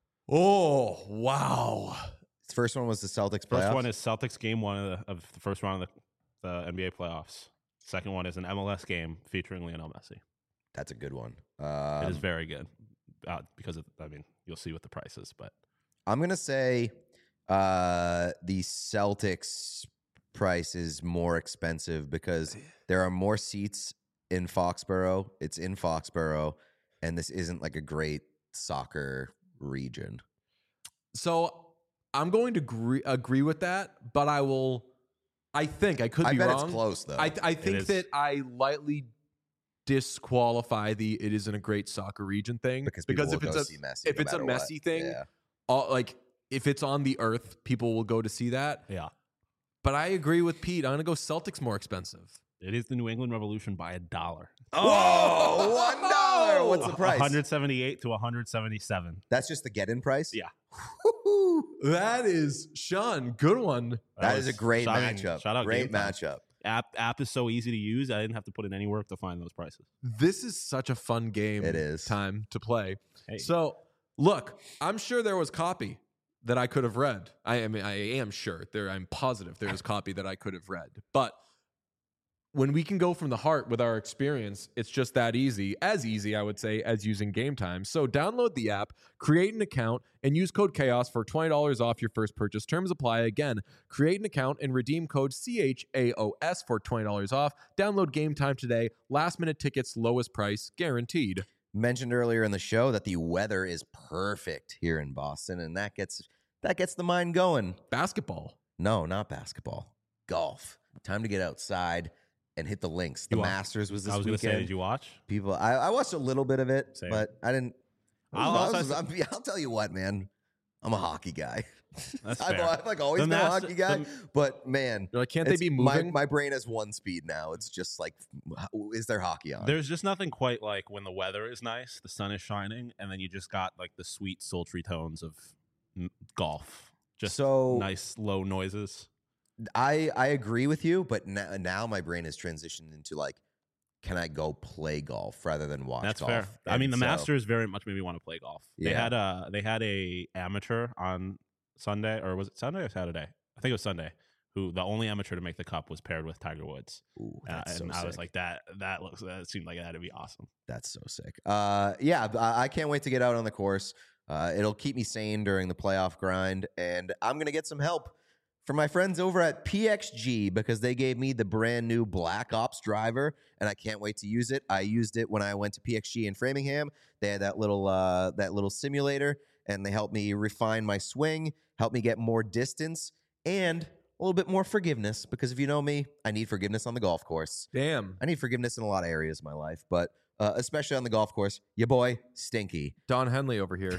S1: Oh, wow.
S2: The first one was the Celtics playoffs?
S3: First one is Celtics Game 1 of the first round of the NBA playoffs. Second one is an MLS game featuring Lionel Messi.
S2: That's a good one.
S3: It is very good because you'll see what the price is. But
S2: I'm going to say the Celtics price is more expensive because there are more seats in Foxborough. It's in Foxborough, and this isn't like a great soccer region.
S1: So I'm going to agree with that, but I think I could be wrong.
S2: I bet it's close though.
S1: I think that I lightly disqualify the it isn't a great soccer region thing
S2: because
S1: if it's a messy thing, like if it's on the earth, people will go to see that.
S3: Yeah.
S1: But I agree with Pete. I'm going to go Celtics more expensive.
S3: It is the New England Revolution by $1.
S2: Oh, $1. What's the price?
S3: 178 to 177.
S2: That's just the get-in price?
S3: Yeah.
S1: That is, Sean, good one.
S2: That is a great matchup.
S3: Shout out
S2: great matchup.
S3: App is so easy to use. I didn't have to put in any work to find those prices.
S1: This is such a fun game.
S2: It is.
S1: Time to play.
S3: Hey.
S1: So, look, I'm sure there was copy that I could have read. I mean, I am sure. I'm positive there is copy that I could have read. But when we can go from the heart with our experience, it's just that easy. As easy, I would say, as using Game Time. So download the app, create an account, and use code CHAOS for $20 off your first purchase. Terms apply. Again, create an account and redeem code CHAOS for $20 off. Download Game Time today. Last-minute tickets, lowest price, guaranteed.
S2: Mentioned earlier in the show that the weather is perfect here in Boston, and that gets the mind going.
S1: Basketball.
S2: No, not basketball. Golf. Time to get outside and hit the links. The Masters was this weekend.
S3: I was going to say, did you watch?
S2: I watched a little bit of it,
S3: Same.
S2: but I didn't. I'll tell you what, man. I'm a hockey guy.
S3: That's fair.
S2: I've like always been a hockey guy, but man,
S1: you're like, can't they be moving?
S2: My brain has one speed now. It's just like, is there hockey on?
S3: There's just nothing quite like when the weather is nice, the sun is shining, and then you just got like the sweet, sultry tones of golf. Just so nice, low noises.
S2: I agree with you, but now my brain has transitioned into like, can I go play golf rather than watch golf?
S3: That's fair. I mean, the Masters very much made me want to play golf.
S2: Yeah.
S3: They had a amateur on Sunday, or was it Sunday or Saturday? I think it was Sunday. Who the only amateur to make the cut was paired with Tiger Woods.
S2: Ooh, that's so
S3: and
S2: sick.
S3: I was like, that seemed like that'd be awesome.
S2: That's so sick. Yeah, I can't wait to get out on the course. It'll keep me sane during the playoff grind, and I'm gonna get some help from my friends over at PXG because they gave me the brand new Black Ops driver, and I can't wait to use it. I used it when I went to PXG in Framingham. They had that little simulator, and they helped me refine my swing, helped me get more distance, and a little bit more forgiveness, because if you know me, I need forgiveness on the golf course.
S1: Damn.
S2: I need forgiveness in a lot of areas of my life, but especially on the golf course. Your boy, Stinky.
S1: Don Henley over here.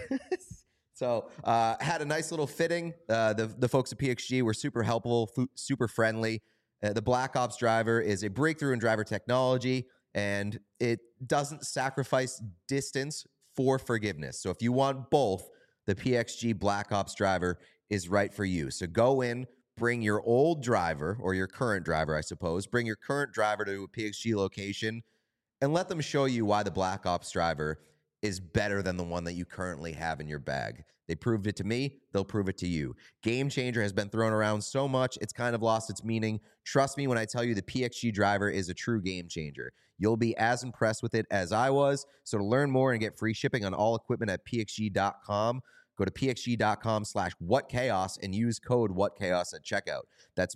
S2: So had a nice little fitting. The folks at PXG were super helpful, super friendly. The Black Ops driver is a breakthrough in driver technology, and it doesn't sacrifice distance for forgiveness. So if you want both, the PXG Black Ops driver is right for you. So go in, bring your old driver, or your current driver, I suppose. Bring your current driver to a PXG location and let them show you why the Black Ops driver is better than the one that you currently have in your bag. They proved it to me. They'll prove it to you. Game Changer has been thrown around so much, it's kind of lost its meaning. Trust me when I tell you the PXG driver is a true game changer. You'll be as impressed with it as I was. So to learn more and get free shipping on all equipment at pxg.com, go to pxg.com/whatchaos and use code whatchaos at checkout. That's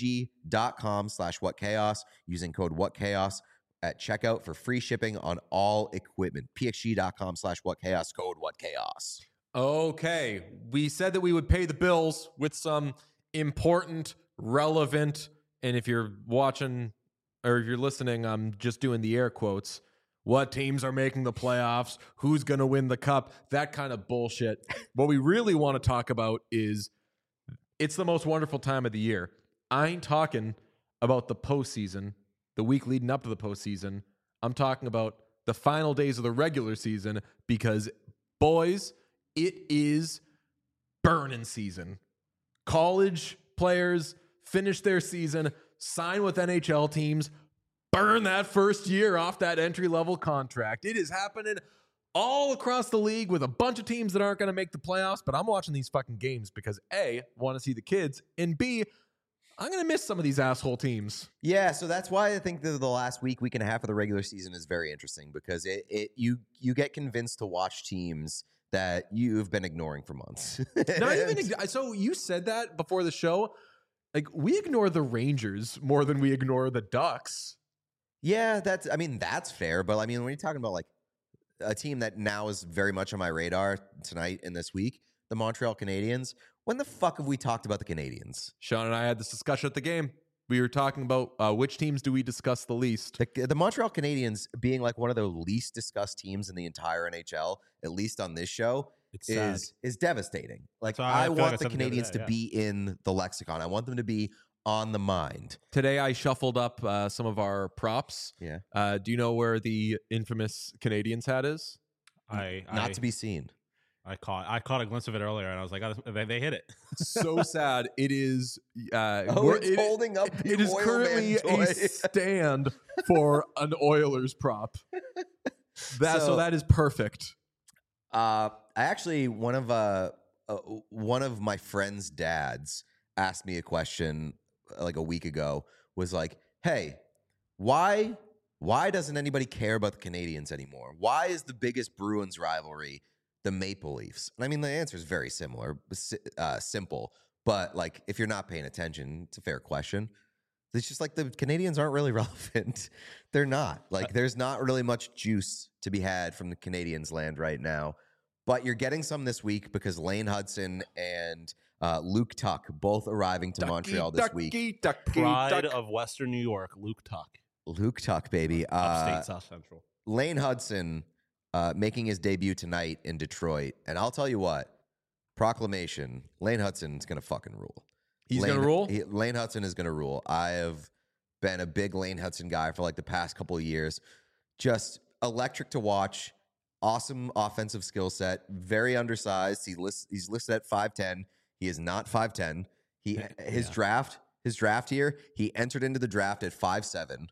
S2: pxg.com/whatchaos using code whatchaos at checkout for free shipping on all equipment. pxg.com/whatchaos, code whatchaos.
S1: Okay, we said that we would pay the bills with some important, relevant, and if you're watching or if you're listening, I'm just doing the air quotes, what teams are making the playoffs, who's going to win the cup, that kind of bullshit. What we really want to talk about is it's the most wonderful time of the year. I ain't talking about the postseason, the week leading up to the postseason. I'm talking about the final days of the regular season because, boys, it is burning season. College players finish their season, sign with NHL teams, burn that first year off that entry-level contract. It is happening all across the league with a bunch of teams that aren't going to make the playoffs, but I'm watching these fucking games because A, want to see the kids, and B, I'm going to miss some of these asshole teams.
S2: Yeah, so that's why I think the last week and a half of the regular season is very interesting because you get convinced to watch teams that you've been ignoring for months.
S1: Not even so you said that before the show. Like, we ignore the Rangers more than we ignore the Ducks.
S2: Yeah, that's fair. But I mean, when you're talking about like a team that now is very much on my radar tonight and this week, the Montreal Canadiens. When the fuck have we talked about the Canadiens?
S1: Sean and I had this discussion at the game. We were talking about which teams do we discuss the least.
S2: The Montreal Canadiens being like one of the least discussed teams in the entire NHL, at least on this show, is devastating. Like, I want the Canadiens to be in the lexicon. I want them to be on the mind.
S1: Today I shuffled up some of our props.
S2: Yeah.
S1: Do you know where the infamous Canadiens hat is?
S2: Not to be seen.
S3: I caught a glimpse of it earlier, and I was like, they hit it.
S1: So sad. It is.
S2: It's holding up.
S1: It is currently a stand for an Oilers prop. So that is perfect.
S2: I actually one of my friend's dads asked me a question like a week ago. Was like, hey, why doesn't anybody care about the Canadiens anymore? Why is the biggest Bruins rivalry the Maple Leafs? And I mean, the answer is very simple. But like, if you're not paying attention, it's a fair question. It's just like the Canadiens aren't really relevant. They're not. Like, there's not really much juice to be had from the Canadiens land right now. But you're getting some this week because Lane Hudson and Luke Tuck both arriving to Montreal this week.
S3: Pride of Western New York, Luke Tuck.
S2: Luke Tuck, baby.
S3: Upstate South Central.
S2: Lane Hudson making his debut tonight in Detroit. And I'll tell you what, proclamation, Lane Hudson's going to fucking rule.
S1: He's going to rule?
S2: Lane Hudson is going to rule. I have been a big Lane Hudson guy for like the past couple of years. Just electric to watch. Awesome offensive skill set. Very undersized. He's listed at 5'10". He is not 5'10". His draft here, he entered into the draft at 5'7".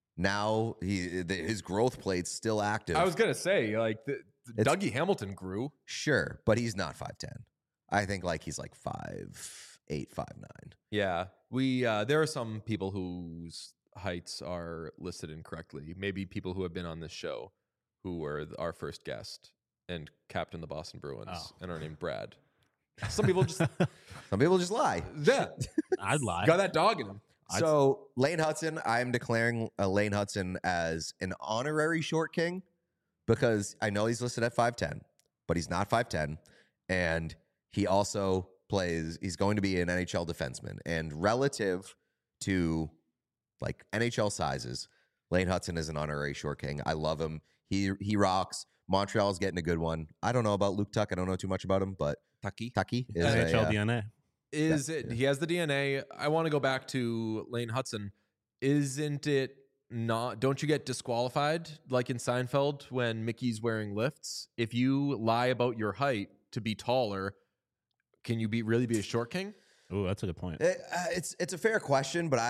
S2: Now his growth plate's still active.
S1: I was gonna say, like, Dougie Hamilton grew.
S2: Sure, but he's not 5'10". I think like he's like 5'8", 5'9".
S1: Yeah, there are some people whose heights are listed incorrectly. Maybe people who have been on this show, who were our first guest and captain the Boston Bruins and are named Brad. Some people just
S2: lie.
S1: Yeah,
S3: I'd lie.
S1: Got that dog in him.
S2: So Lane Hudson, I am declaring Lane Hudson as an honorary short king because I know he's listed at 5'10", but he's not 5'10", and he also he's going to be an NHL defenseman. And relative to like NHL sizes, Lane Hudson is an honorary short king. I love him. He rocks. Montreal's getting a good one. I don't know about Luke Tuck. I don't know too much about him, but Tucky is
S3: NHL DNA.
S1: He has the DNA. I want to go back to Lane Hudson. Isn't it not? Don't you get disqualified like in Seinfeld when Mickey's wearing lifts? If you lie about your height to be taller, can you really be a short king?
S3: Oh, that's a good point.
S2: It's a fair question, but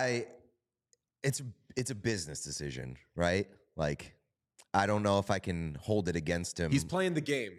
S2: it's a business decision, right? Like, I don't know if I can hold it against him.
S1: He's playing the game.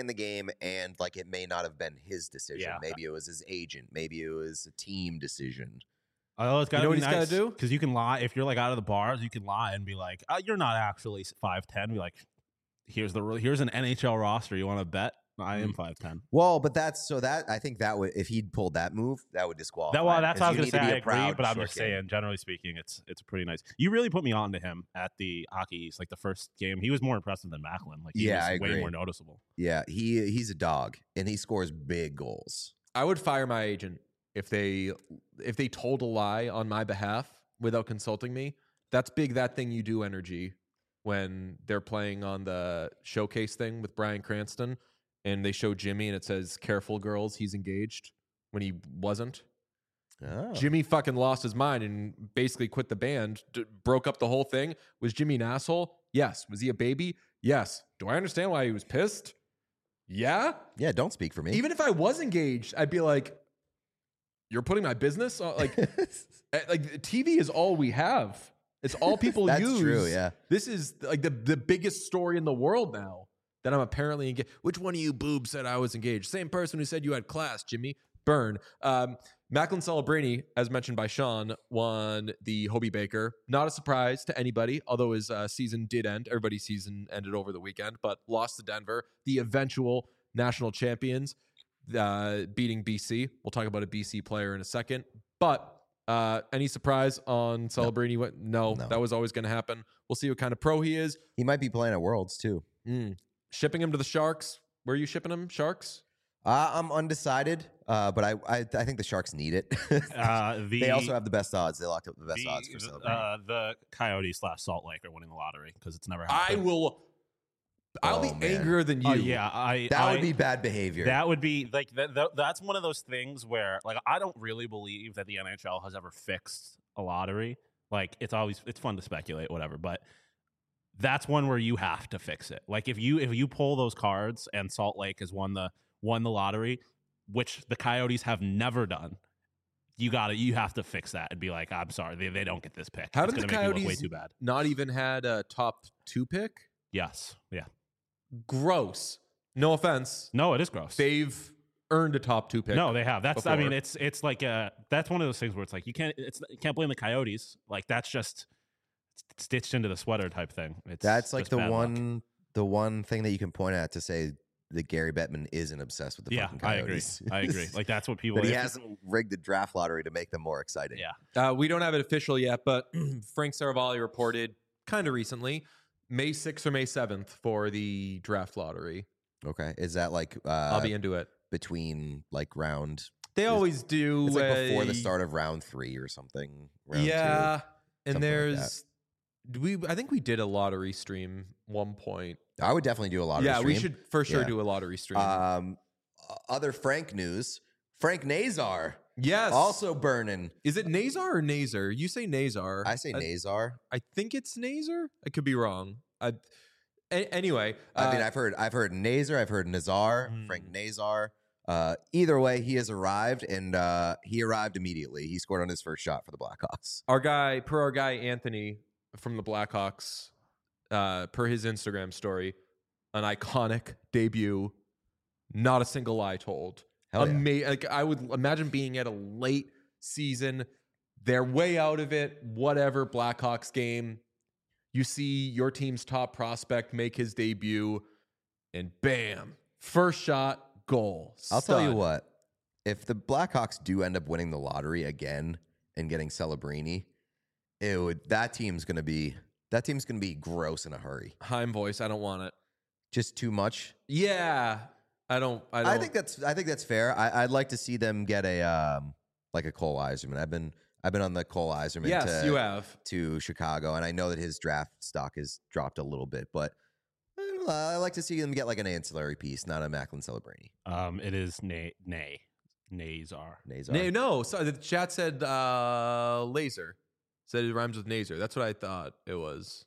S2: And like, it may not have been his decision.
S3: Yeah.
S2: Maybe it was his agent. Maybe it was a team decision.
S3: Oh, it's got to be
S1: what he's
S3: nice,
S1: got to do?
S3: because you can lie if you're like out of the bars. You can lie and be like, "You're not actually 5'10". Be like, "Here's an NHL roster. You want to bet? I am 5'10".
S2: Well, but I think that would, if he'd pulled that move, that would disqualify.
S3: That's what I was going to say. I agree,
S2: proud
S3: but I'm
S2: short
S3: just
S2: king.
S3: saying, generally speaking, it's pretty nice. You really put me on to him at the Hockey East, like the first game. He was more impressive than Macklin. Like, he was
S2: I
S3: way
S2: agree.
S3: more noticeable.
S2: Yeah, he's a dog, and he scores big goals.
S1: I would fire my agent if they told a lie on my behalf without consulting me. That's big that thing you do energy when they're playing on the showcase thing with Bryan Cranston and they show Jimmy and it says, "Careful girls, he's engaged," when he wasn't.
S2: Oh.
S1: Jimmy fucking lost his mind and basically quit the band, broke up the whole thing. Was Jimmy an asshole? Yes. Was he a baby? Yes. Do I understand why he was pissed? Yeah.
S2: Yeah, don't speak for me.
S1: Even if I was engaged, I'd be like, "You're putting my business on?" Like, like TV is all we have. It's all people
S2: That's
S1: use.
S2: true, yeah.
S1: This is like the biggest story in the world now, that I'm apparently engaged. Which one of you boobs said I was engaged? Same person who said you had class, Jimmy. Burn. Macklin Celebrini, as mentioned by Sean, won the Hobey Baker. Not a surprise to anybody, although his season did end. Everybody's season ended over the weekend, but lost to Denver, the eventual national champions, beating BC. We'll talk about a BC player in a second. But any surprise on Celebrini? No,
S2: No.
S1: that was always going to happen. We'll see what kind of pro he is.
S2: He might be playing at Worlds too.
S1: Shipping him to the Sharks. Where are you shipping him? Sharks?
S2: I'm undecided, but I think the Sharks need it. They also have the best odds. They locked up the best odds for Celebrini.
S3: The Coyotes / Salt Lake are winning the lottery because it's never happened.
S1: I'll be angrier than you.
S2: That would be bad behavior.
S3: That would be like that's one of those things where like I don't really believe that the NHL has ever fixed a lottery. Like it's fun to speculate, whatever, but that's one where you have to fix it. Like if you pull those cards and Salt Lake has won the lottery, which the Coyotes have never done, you have to fix that and be like, I'm sorry, they don't get this pick.
S1: How did the
S3: make
S1: Coyotes
S3: way too bad?
S1: Not even had a top 2 pick?
S3: Yes. Yeah.
S1: Gross. No offense.
S3: No, it is gross.
S1: They've earned a top 2 pick.
S3: No, they have. That's
S1: before.
S3: I mean, it's like that's one of those things where it's like you can't blame the Coyotes. Like that's just stitched into the sweater type thing.
S2: That's like
S3: the
S2: one thing that you can point at to say that Gary Bettman isn't obsessed with the fucking Coyotes.
S3: I agree. Like that's what people.
S2: But he hasn't rigged the draft lottery to make them more exciting.
S3: Yeah.
S1: We don't have it official yet, but Frank Saravalli reported kind of recently May 6th or May 7th for the draft lottery.
S2: Okay. Is that like
S1: I'll be into it.
S2: Between like round?
S1: They always do.
S2: It's like before the start of round 3 or something. Round 2,
S1: and there's I think we did a lottery stream one point.
S2: I would definitely do a lottery stream.
S1: Yeah, we should for sure do a lottery stream.
S2: Other Frank news. Frank Nazar.
S1: Yes.
S2: Also burning.
S1: Is it Nazar or Nazar? You say Nazar.
S2: I say Nazar.
S1: I think it's Nazar. I could be wrong. Anyway.
S2: I mean, I've heard Nazar. I've heard Nazar. Frank Nazar. Either way, he has arrived, and he arrived immediately. He scored on his first shot for the Blackhawks.
S1: Our guy Anthony from the Blackhawks, per his Instagram story, an iconic debut. Not a single lie told. Like I would imagine being at a late season, they're way out of it. Whatever Blackhawks game, you see your team's top prospect make his debut, and bam, first shot, goal.
S2: I'll tell you what: if the Blackhawks do end up winning the lottery again and getting Celebrini, that team's gonna be gross in a hurry.
S1: Heim voice. I don't want it.
S2: Just too much.
S1: Yeah. I think
S2: that's fair. I'd like to see them get a like a Cole Eiserman. I've been on the Cole Eiserman.
S1: Yes, you have
S2: to Chicago, and I know that his draft stock has dropped a little bit, but I like to see them get like an ancillary piece, not a Macklin Celebrini.
S3: It is Nazar.
S1: No, sorry. The chat said laser. Said it rhymes with Nazar. That's what I thought it was.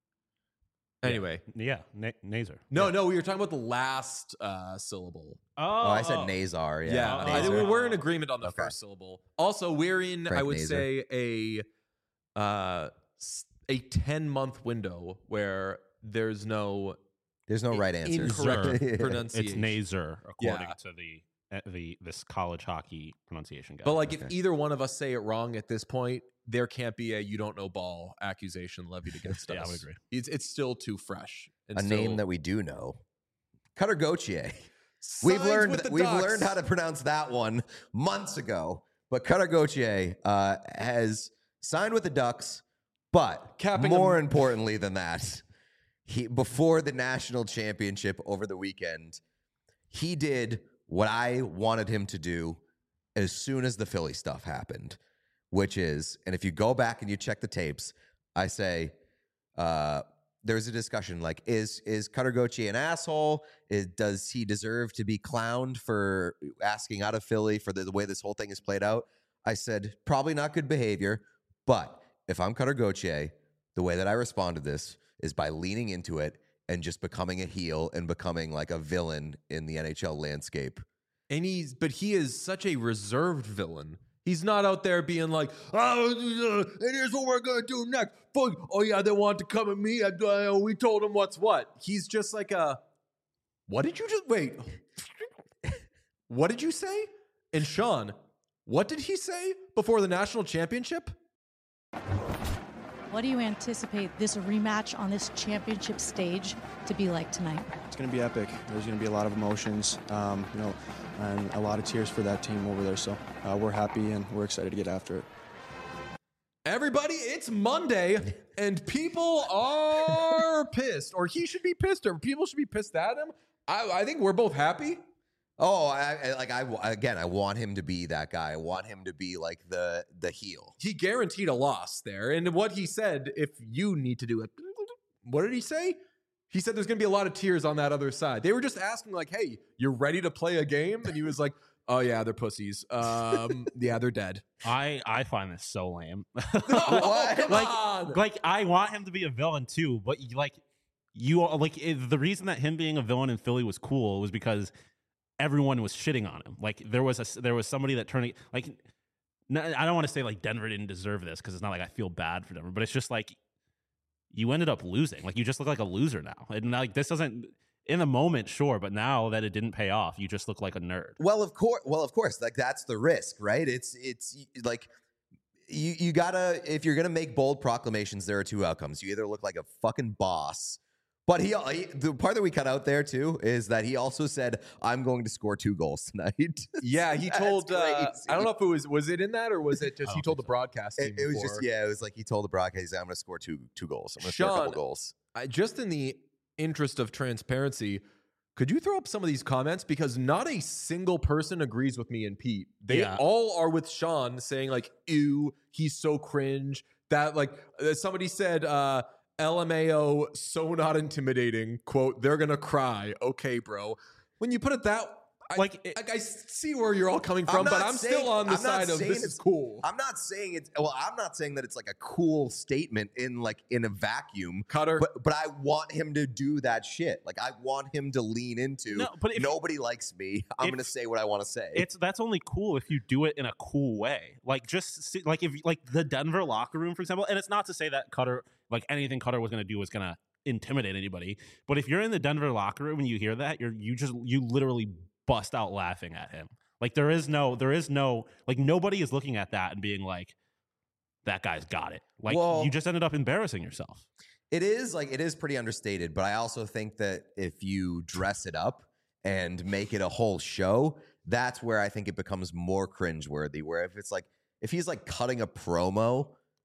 S1: Anyway.
S3: Yeah, Nazar.
S1: No, we were talking about the last syllable.
S2: Oh, I said Nazar.
S1: Yeah. I think we're in agreement on the first syllable. Also, we're in,
S2: Frank
S1: I would
S2: Nazar.
S1: say, a 10-month window where there's no
S2: right answer.
S1: Incorrect pronunciation.
S3: It's Nazar, according to this college hockey pronunciation guy.
S1: But like, if either one of us say it wrong at this point, there can't be a "you don't know ball" accusation levied against us.
S3: Yeah, I would agree.
S1: It's still too fresh.
S2: Name that we do know, Cutter Gauthier. We've learned how to pronounce that one months ago. But Cutter Gauthier has signed with the Ducks. But more importantly than that, before the national championship over the weekend, he did what I wanted him to do as soon as the Philly stuff happened, which is, and if you go back and you check the tapes, I say there's a discussion like, is Cutter Gauthier an asshole? Does he deserve to be clowned for asking out of Philly for the way this whole thing is played out? I said, probably not good behavior, but if I'm Cutter Gauthier, the way that I respond to this is by leaning into it and just becoming a heel and becoming like a villain in the NHL landscape.
S1: But he is such a reserved villain. He's not out there being like, and here's what we're going to do next. Oh, yeah, they want to come at me. We told them what's what. He's just like what did you just, wait. What did you say? And Sean, what did he say before the national championship?
S4: What do you anticipate this rematch on this championship stage to be like tonight?
S5: It's going to be epic. There's going to be a lot of emotions, and a lot of tears for that team over there. So we're happy and we're excited to get after it.
S1: Everybody, it's Monday, and people are pissed, or he should be pissed, or people should be pissed at him. I think we're both happy.
S2: Oh, I want him to be that guy. I want him to be like the heel.
S1: He guaranteed a loss there. And what he said, if you need to do it, what did he say? He said there's going to be a lot of tears on that other side. They were just asking like, hey, you're ready to play a game? And he was like, oh yeah, they're pussies. Yeah, they're dead.
S3: I find this so lame.
S1: Oh, come on.
S3: Like I want him to be a villain too, but the reason that him being a villain in Philly was cool was because everyone was shitting on him. Like there was somebody that turned like. I don't want to say like Denver didn't deserve this because it's not like I feel bad for Denver, but it's just like you ended up losing. Like you just look like a loser now, and like this doesn't. In the moment, sure, but now that it didn't pay off, you just look like a nerd.
S2: Well, of course, like that's the risk, right? It's like you gotta, if you're gonna make bold proclamations, there are two outcomes. You either look like a fucking boss, but the part that we cut out there too is that he also said, "I'm going to score 2 goals tonight."
S1: Yeah, he told. I don't know if it was it in that or was it just he told the broadcast team?
S2: It was just it was like he told the broadcast, he's like, "I'm going to score two goals. I'm going to score a couple goals."
S1: Just in the interest of transparency, could you throw up some of these comments, because not a single person agrees with me and Pete. They all are with Sean, saying like, ew, he's so cringe. That like somebody said LMAO, so not intimidating, quote, they're gonna cry. Okay, bro, when you put it that I see where you're all coming from, but I'm still on the side of this is cool.
S2: I'm not saying that it's like a cool statement in a vacuum,
S1: Cutter.
S2: But I want him to do that shit. Like I want him to lean into.
S3: No, but if
S2: nobody likes me, I'm going to say what I want to say.
S3: That's only cool if you do it in a cool way. Like just like if like the Denver locker room, for example. And it's not to say that Cutter, like anything Cutter was going to do was going to intimidate anybody. But if you're in the Denver locker room and you hear that, you literally bust out laughing at him. Like there is no like nobody is looking at that and being like, that guy's got it. Like you just ended up embarrassing yourself.
S2: It is pretty understated, but I also think that if you dress it up and make it a whole show, that's where I think it becomes more cringeworthy. Where if he's like cutting a promo,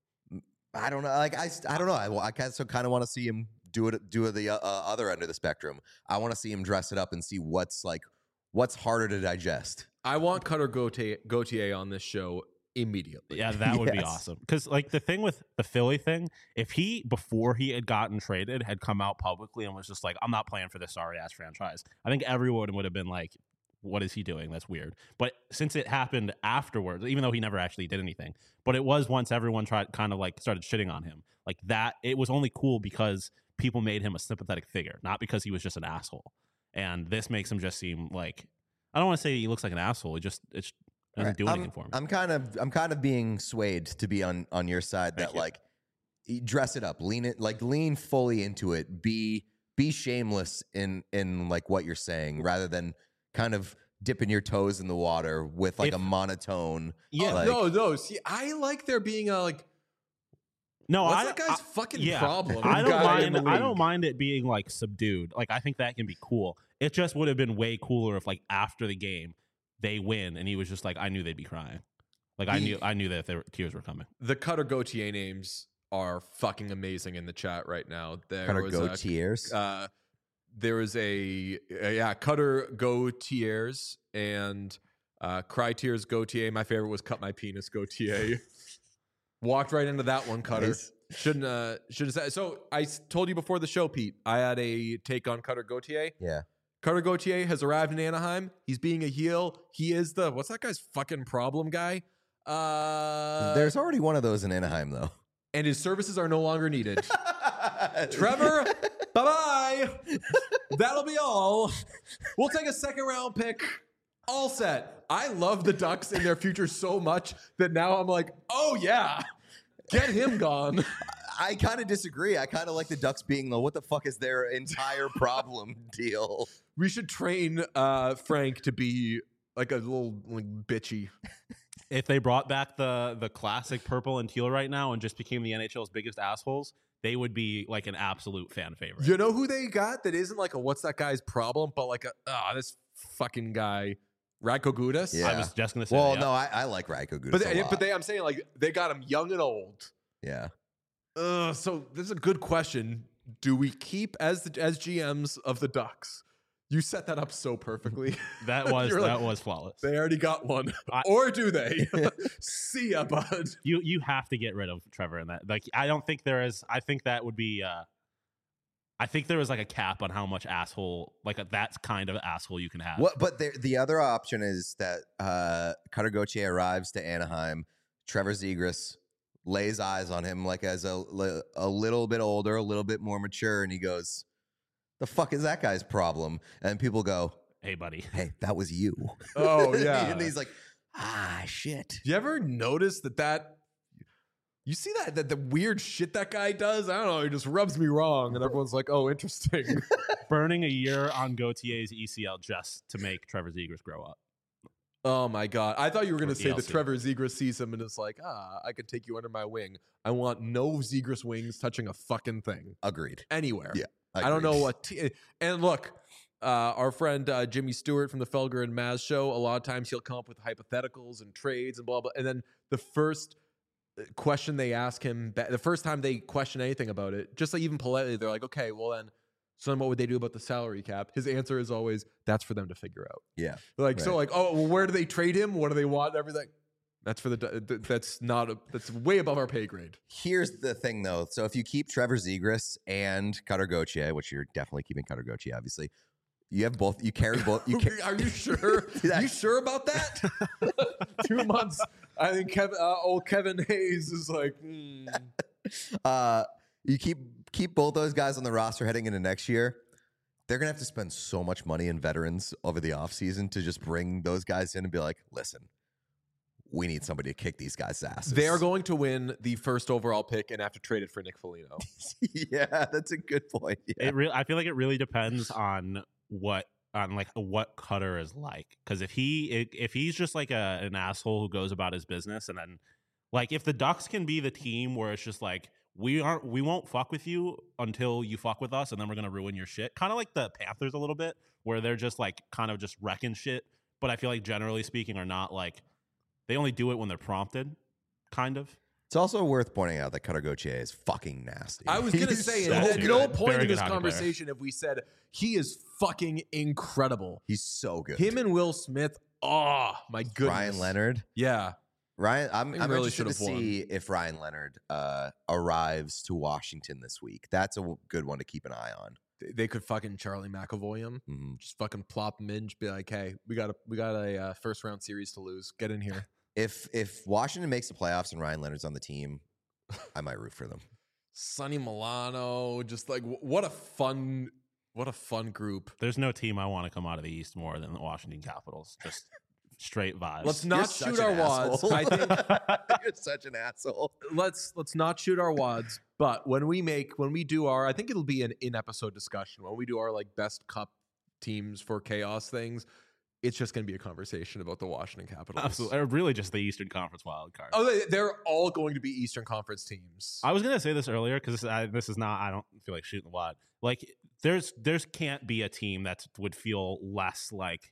S2: I don't know. Like I don't know. I kind of want to see him do it the other end of the spectrum. I want to see him dress it up and see what's harder to digest.
S1: I want Cutter Gauthier on this show immediately.
S3: Yeah, that would be awesome. Because like the thing with the Philly thing, if he, before he had gotten traded, had come out publicly and was just like, I'm not playing for this sorry ass franchise, I think everyone would have been like, what is he doing? That's weird. But since it happened afterwards, even though he never actually did anything, but it was once everyone started shitting on him, like that, it was only cool because people made him a sympathetic figure, not because he was just an asshole. And this makes him just seem like, I don't want to say he looks like an asshole. It doesn't do anything for me.
S2: I'm kind of being swayed to be on your side. That like, dress it up, lean fully into it. Be shameless in like what you're saying, rather than kind of dipping your toes in the water with like a monotone.
S3: Yeah,
S1: no. See, I like there being a like.
S3: No,
S1: what's that guy's fucking problem?
S3: I don't mind it being like subdued. Like I think that can be cool. It just would have been way cooler if like after the game they win and he was just like, I knew they'd be crying. Like I knew that tears were coming.
S1: The Cutter Gauthier names are fucking amazing in the chat right now.
S2: Cutter Gauthiers.
S1: There was Cutter Gauthiers and Cry Tears Gauthier. My favorite was Cut My Penis Gauthier. Walked right into that one, Cutter.
S2: Nice.
S1: Shouldn't have said. So I told you before the show, Pete, I had a take on Cutter Gauthier.
S2: Yeah.
S1: Cutter Gauthier has arrived in Anaheim. He's being a heel. He is what's that guy's fucking problem guy?
S2: There's already one of those in Anaheim, though.
S1: And his services are no longer needed. Trevor, bye-bye. That'll be all. We'll take a second round pick. All set. I love the Ducks in their future so much that now I'm like, oh yeah, get him gone.
S2: I kind of disagree. I kind of like the Ducks being the what the fuck is their entire problem deal.
S1: We should train Frank to be like a little like bitchy
S3: If they brought back the classic purple and teal right now and just became the NHL's biggest assholes, they would be like an absolute fan favorite.
S1: You know who they got that isn't like a what's that guy's problem, but like this fucking guy, Radko Gudas?
S2: Yeah.
S3: I was just going to say
S2: Well,
S3: that.
S2: no, I like Radko Gudas
S1: But I'm saying like they got him young and old.
S2: Yeah.
S1: So this is a good question. Do we keep as GMs of the Ducks? You set that up so perfectly.
S3: That was
S1: You're like,
S3: was flawless.
S1: they already got one. Or do they? See ya, bud.
S3: You have to get rid of Trevor in that. Like, I don't think there is. I think that would be. I think there was like a cap on how much asshole, like that kind of asshole you can have.
S2: What? But the other option is that Cutter Gauthier arrives to Anaheim. Trevor Zegras lays eyes on him like as a little bit older, a little bit more mature, and he goes, "The fuck is that guy's problem?" And people go,
S3: Hey, buddy.
S2: "Hey, that was you."
S1: Oh, yeah.
S2: And he's like, shit.
S1: Do you ever notice that you see that the weird shit that guy does? I don't know. He just rubs me wrong, and everyone's like, "Oh, interesting."
S3: Burning a year on Gauthier's ECL just to make Trevor Zegras grow up.
S1: Oh my God. I thought you were going to say
S3: ELC.
S1: that Trevor Zegras sees him and is like, I could take you under my wing. I want no Zegras wings touching a fucking thing.
S2: Agreed.
S1: Anywhere.
S2: Yeah.
S1: I don't know what. And look, our friend Jimmy Stewart from the Felger and Maz show, a lot of times he'll come up with hypotheticals and trades and blah, blah. And then the first question they ask him, the first time they question anything about it, just like even politely, they're like, okay, well then, so then what would they do about the salary cap? His answer is always, that's for them to figure out.
S2: Yeah.
S1: Like,
S2: Right.
S1: so like, oh, well, where do they trade him? What do they want? Everything. That's for that's way above our pay grade.
S2: Here's the thing, though. So if you keep Trevor Zegras and Cutter Gauthier, which you're definitely keeping Cutter Gauthier, obviously, you have both. You carry both.
S1: Are you sure? You sure about that? 2 months. I think old Kevin Hayes is like,
S2: You keep both those guys on the roster heading into next year. They're gonna have to spend so much money in veterans over the offseason to just bring those guys in and be like, listen, we need somebody to kick these guys' asses.
S1: they are going to win the first overall pick and have to trade it for Nick Foligno.
S2: Yeah, that's a good point. Yeah.
S3: I feel like it really depends on what Cutter is like. Because if he's just like an asshole who goes about his business, and then like if the Ducks can be the team where it's just like we won't fuck with you until you fuck with us, and then we're gonna ruin your shit. Kind of like the Panthers a little bit, where they're just like kind of just wrecking shit. But I feel like generally speaking, are not like they only do it when they're prompted, kind of.
S2: It's also worth pointing out that Cutter Gauthier is fucking nasty.
S1: I was going to say, at no point in this conversation have we said he is fucking incredible.
S2: He's so good.
S1: Him and Will Smith, oh my goodness.
S2: Ryan Leonard.
S1: Yeah.
S2: Ryan, I'm
S1: really
S2: interested to see if Ryan Leonard arrives to Washington this week. That's a good one to keep an eye on.
S1: They could fucking Charlie McAvoy him.
S2: Mm-hmm.
S1: Just fucking plop him in. Just be like, hey, we got a first round series to lose. Get in here.
S2: If Washington makes the playoffs and Ryan Leonard's on the team, I might root for them.
S1: Sonny Milano, just like what a fun group.
S3: There's no team I want to come out of the East more than the Washington Capitals. Just straight vibes.
S1: Let's not shoot our wads. I think
S2: you're such an asshole.
S1: Let's not shoot our wads. But when we do our, I think it'll be an in-episode discussion when we do our like best cup teams for chaos things. It's just going to be a conversation about the Washington Capitals.
S3: Absolutely, or really just the Eastern Conference wild card.
S1: Oh, they're all going to be Eastern Conference teams.
S3: I was going to say this earlier because this is not. I don't feel like shooting the wad. Like there's can't be a team that would feel less like.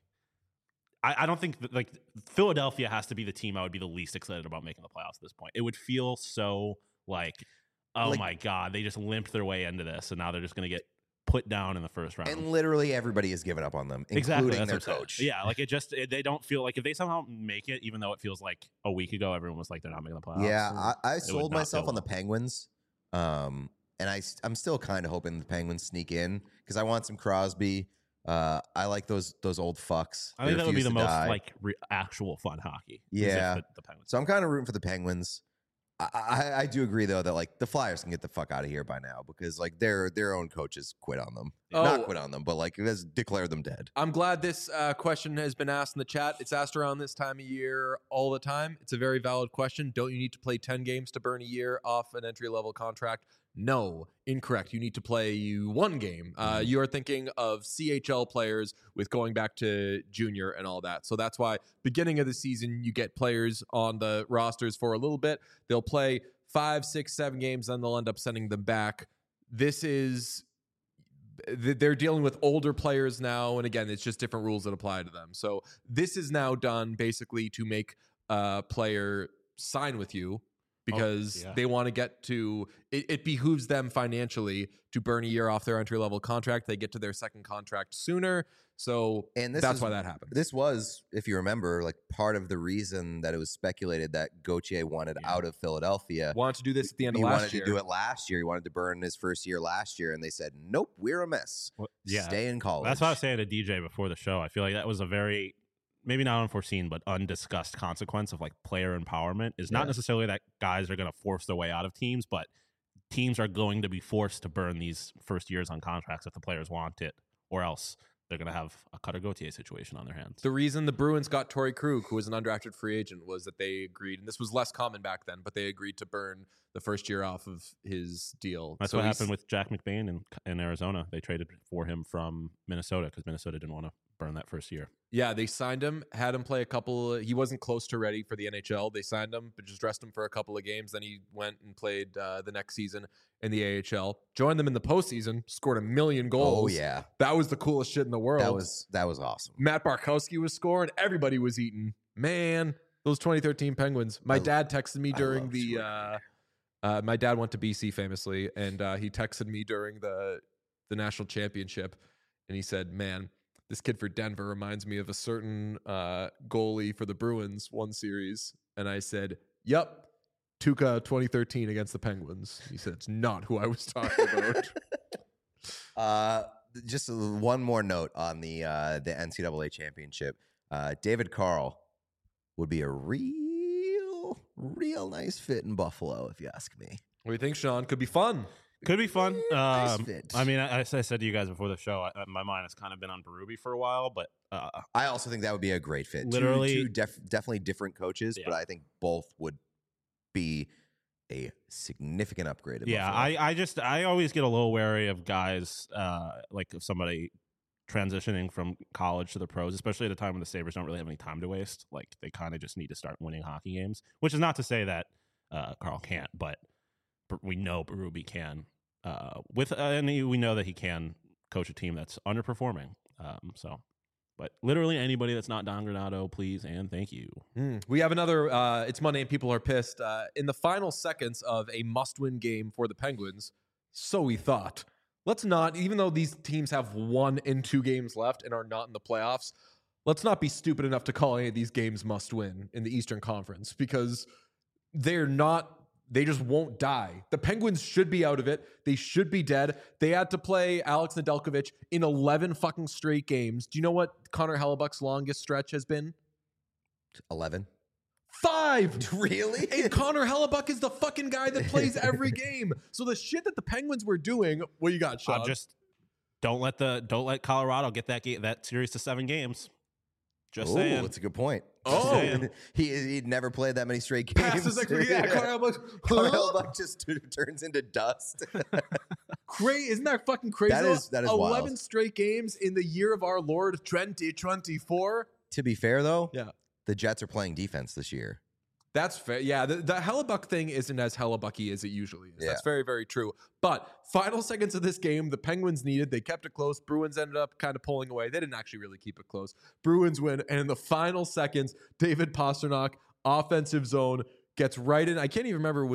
S3: I don't think that, like Philadelphia has to be the team I would be the least excited about making the playoffs at this point. It would feel so like, oh my God, they just limped their way into this, and now they're just going to get put down in the first round.
S2: And literally everybody has given up on them,
S3: exactly,
S2: including their coach.
S3: Yeah, like they don't feel like if they somehow make it, even though it feels like a week ago everyone was like they're not making the playoffs.
S2: Yeah, I sold myself on the Penguins, and I'm still kind of hoping the Penguins sneak in because I want some Crosby. I like those old fucks.
S3: I think that would be the most like actual fun hockey.
S2: Yeah,
S3: the Penguins.
S2: So I'm kind of rooting for the Penguins. I do agree though that like the Flyers can get the fuck out of here by now because like their own coaches quit on them. Not quit on them, but like has declared them dead.
S1: I'm glad this question has been asked in the chat. It's asked around this time of year all the time. It's a very valid question. Don't you need to play 10 games to burn a year off an entry-level contract? No, incorrect. You need to play one game. You are thinking of CHL players with going back to junior and all that. So that's why beginning of the season, you get players on the rosters for a little bit. They'll play 5, 6, 7 games, then they'll end up sending them back. They're dealing with older players now. And again, it's just different rules that apply to them. So this is now done basically to make a player sign with you, because they want to get to it behooves them financially to burn a year off their entry-level contract. They get to their second contract sooner. So that's why that happened.
S2: This was, if you remember, like part of the reason that it was speculated that Gauthier wanted out of Philadelphia.
S1: Wanted to do this at the end of last year.
S2: He wanted to do it last year. He wanted to burn his first year last year, and they said, nope, we're a mess. Stay in college.
S3: That's what I was saying to DJ before the show. I feel like that was a very, maybe not unforeseen, but undiscussed consequence of like player empowerment. Is not necessarily that guys are going to force their way out of teams, but teams are going to be forced to burn these first years on contracts if the players want it, or else they're going to have a Cutter Gauthier situation on their hands.
S1: The reason the Bruins got Torrey Krug, who was an undrafted free agent, was that they agreed, and this was less common back then, but they agreed to burn the first year off of his deal.
S3: That's what happened with Jack McBain in Arizona. They traded for him from Minnesota because Minnesota didn't want to burn that first year.
S1: Yeah, they signed him, had him play a couple. He wasn't close to ready for the NHL. They signed him, but just rested him for a couple of games. Then he went and played the next season in the AHL. Joined them in the postseason, scored 1 million goals.
S2: Oh, yeah.
S1: That was the coolest shit in the world.
S2: That was awesome.
S1: Matt Barkowski was scoring. Everybody was eating. Man, those 2013 Penguins. My dad texted me during my dad went to BC famously, and he texted me during the national championship, and he said, man, this kid for Denver reminds me of a certain goalie for the Bruins one series. And I said, yep, Tuukka 2013 against the Penguins. He said, it's not who I was talking
S2: about. Just one more note on the NCAA championship. David Carl would be a real nice fit in Buffalo, if you ask me.
S1: What do you think, Sean? Could be fun.
S3: Could be fun.
S2: Nice fit.
S3: I mean, I said to you guys before the show, my mind has kind of been on Berube for a while, but
S2: I also think that would be a great fit.
S3: Literally,
S2: two definitely different coaches, but I think both would be a significant upgrade.
S3: I always get a little wary of guys like if somebody transitioning from college to the pros, especially at a time when the Sabres don't really have any time to waste. Like they kind of just need to start winning hockey games, which is not to say that Carl can't, but we know Berube can. And we know that he can coach a team that's underperforming. But literally anybody that's not Don Granato, please and thank you.
S1: We have another. It's Monday and people are pissed. In the final seconds of a must-win game for the Penguins, so we thought, let's not. Even though these teams have 1 and 2 games left and are not in the playoffs, let's not be stupid enough to call any of these games must-win in the Eastern Conference, because they're not. They just won't die. The Penguins should be out of it. They should be dead. They had to play Alex Nedeljkovic in 11 fucking straight games. Do you know what Connor Hellebuck's longest stretch has been?
S2: 11.
S1: 5.
S2: Really?
S1: And Connor Hellebuck is the fucking guy that plays every game. So the shit that the Penguins were doing, what you got, Sean?
S3: Just don't let Colorado get that series to 7 games. Just saying.
S2: That's a good point.
S3: Oh,
S2: he'd never played that many straight games.
S1: Passes like, yeah,
S2: Connor Hellebuck just turns into dust.
S1: Isn't that fucking crazy?
S2: That is
S1: 11
S2: wild.
S1: straight games in the year of our Lord 2024.
S2: To be fair, though,
S1: yeah,
S2: the Jets are playing defense this year.
S1: That's fair. Yeah, the Hellebuck thing isn't as Hellebucky as it usually is.
S2: Yeah.
S1: That's very, very true. But final seconds of this game, the Penguins needed. They kept it close. Bruins ended up kind of pulling away. They didn't actually really keep it close. Bruins win. And in the final seconds, David Pastrnak, offensive zone, gets right in. I can't even remember.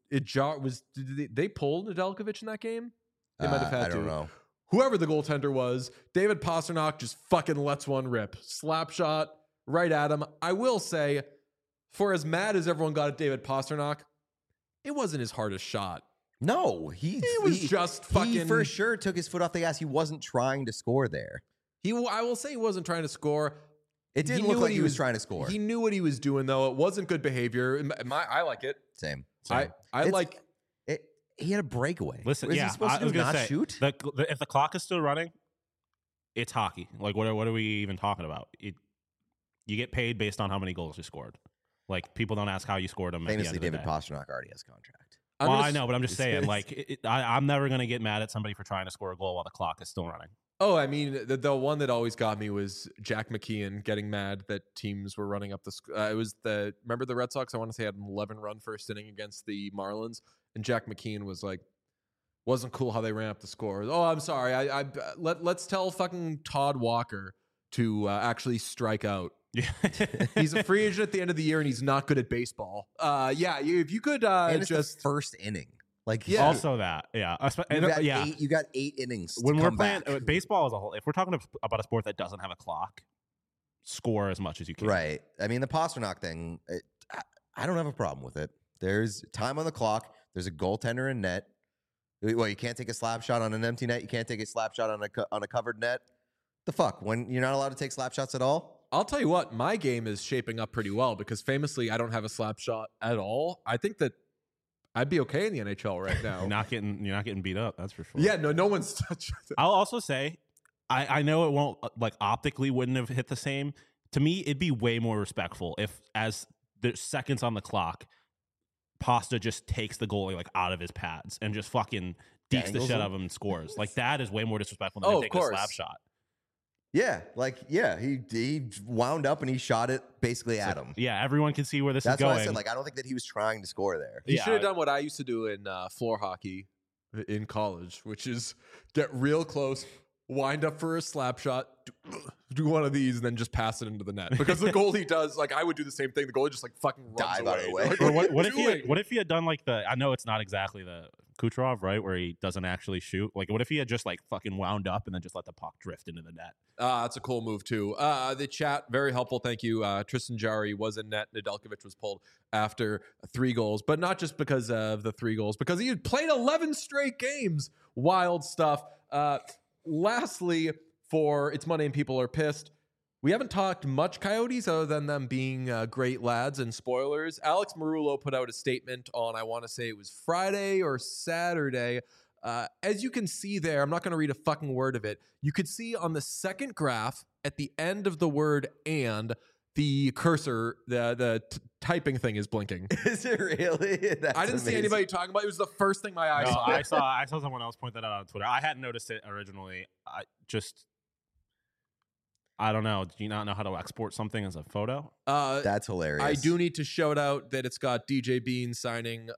S1: Did they pull Nedeljkovic in that game? They might have had to.
S2: I don't know.
S1: Whoever the goaltender was, David Pastrnak just fucking lets one rip. Slap shot right at him. I will say, for as mad as everyone got at David Pastrnak, it wasn't his hardest shot.
S2: No, he
S1: just fucking.
S2: He for sure took his foot off the gas. He wasn't trying to score there.
S1: I will say he wasn't trying to score.
S2: It didn't look like he was trying to score.
S1: He knew what he was doing, though. It wasn't good behavior. I like it.
S2: Same.
S1: I like
S2: it. He had a breakaway.
S3: Listen,
S2: was he supposed to not shoot?
S3: If the clock is still running, it's hockey. Like, what are we even talking about? You get paid based on how many goals you scored. Like, people don't ask how you scored them.
S2: Famously, David Pastrnak already has a contract.
S3: I know, but I'm just saying, like, I'm never going to get mad at somebody for trying to score a goal while the clock is still running.
S1: Oh, I mean, the one that always got me was Jack McKeon getting mad that teams were running up the. It was remember the Red Sox? I want to say had an 11-run first inning against the Marlins, and Jack McKeon was like, wasn't cool how they ran up the score. Oh, I'm sorry. Let's tell fucking Todd Walker to actually strike out.
S3: Yeah,
S1: he's a free agent at the end of the year, and he's not good at baseball. If you could
S2: and it's
S1: just
S2: the first inning. Like
S3: also that, yeah,
S2: you got 8 innings.
S3: When we're playing
S2: back.
S3: baseball as a whole, if we're talking about a sport that doesn't have a clock, score as much as you can.
S2: Right. I mean, the Pasternak thing, I don't have a problem with it. There's time on the clock. There's a goaltender in net. Well, you can't take a slap shot on an empty net. You can't take a slap shot on a covered net. The fuck? When you're not allowed to take slap shots at all?
S1: I'll tell you what, my game is shaping up pretty well because famously I don't have a slap shot at all. I think that I'd be okay in the NHL right now.
S3: You're not getting beat up, that's for sure.
S1: Yeah, no one's touched it.
S3: I'll also say, I know it won't, like, optically wouldn't have hit the same. To me, it'd be way more respectful if, as there's seconds on the clock, Pasta just takes the goalie like out of his pads and just fucking dekes the shit out of him and scores. Like, that is way more disrespectful than taking a slap shot.
S2: Yeah, he wound up and he shot it basically at him.
S3: Yeah, everyone can see where this is going.
S2: That's what I said. Like, I don't think that he was trying to score there.
S1: He should have done what I used to do in floor hockey in college, which is get real close, wind up for a slap shot, do one of these, and then just pass it into the net. Because the goalie does, like, I would do the same thing. The goalie just like fucking runs
S2: dive out of the way.
S1: Like,
S3: what if he had done like I know it's not exactly the Kucherov, right, where he doesn't actually shoot. Like, what if he had just like fucking wound up and then just let the puck drift into the net?
S1: That's a cool move too. The chat, very helpful. Thank you. Tristan Jarry was in net. Nedeljkovic was pulled after 3 goals, but not just because of the 3 goals, because he had played 11 straight games. Wild stuff. Lastly, for It's Monday and People Are Pissed, we haven't talked much Coyotes other than them being great lads and spoilers. Alex Marullo put out a statement on, I want to say it was Friday or Saturday. As you can see there, I'm not going to read a fucking word of it. You could see on the second graph at the end of the word "and," the cursor, the typing thing is blinking.
S2: Is it really? That's
S1: I didn't see anybody talking about it. It was the first thing my eyes saw.
S3: I saw someone else point that out on Twitter. I hadn't noticed it originally. I don't know. Do you not know how to export something as a photo?
S2: That's hilarious.
S1: I do need to shout out that it's got DJ Bean signing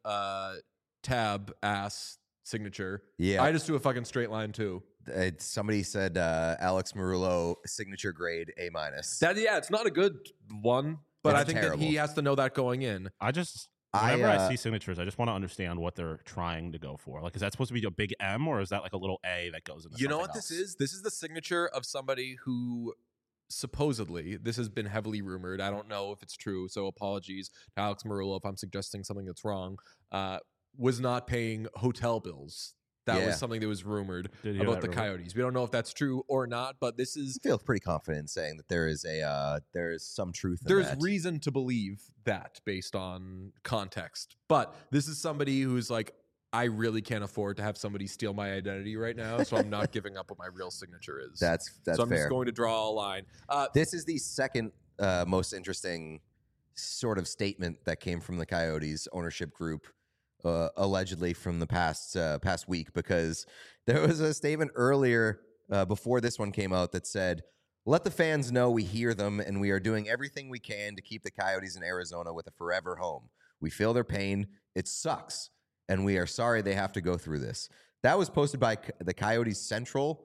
S1: tab ass signature.
S2: Yeah.
S1: I just do a fucking straight line too.
S2: Somebody said Alex Marullo signature grade A-.
S1: It's not a good one, but I think that he has to know that going in.
S3: Whenever I see signatures, I just want to understand what they're trying to go for. Like, is that supposed to be a big M or is that like a little A that goes into?
S1: You know what this is? This is the signature of somebody who supposedly, this has been heavily rumored. I don't know if it's true, so apologies to Alex Marullo if I'm suggesting something that's wrong. Was not paying hotel bills. That was something that was rumored about the Coyotes. We don't know if that's true or not, but this is.
S2: I feel pretty confident in saying that there is some truth in that.
S1: There's reason to believe that based on context. But this is somebody who's like, I really can't afford to have somebody steal my identity right now, so I'm not giving up what my real signature is.
S2: That's
S1: so I'm
S2: fair.
S1: just going to draw a line.
S2: This is the second most interesting sort of statement that came from the Coyotes ownership group. Allegedly from the past week, because there was a statement earlier before this one came out that said, "Let the fans know we hear them and we are doing everything we can to keep the Coyotes in Arizona with a forever home. We feel their pain. It sucks. And we are sorry they have to go through this." That was posted by the Coyotes Central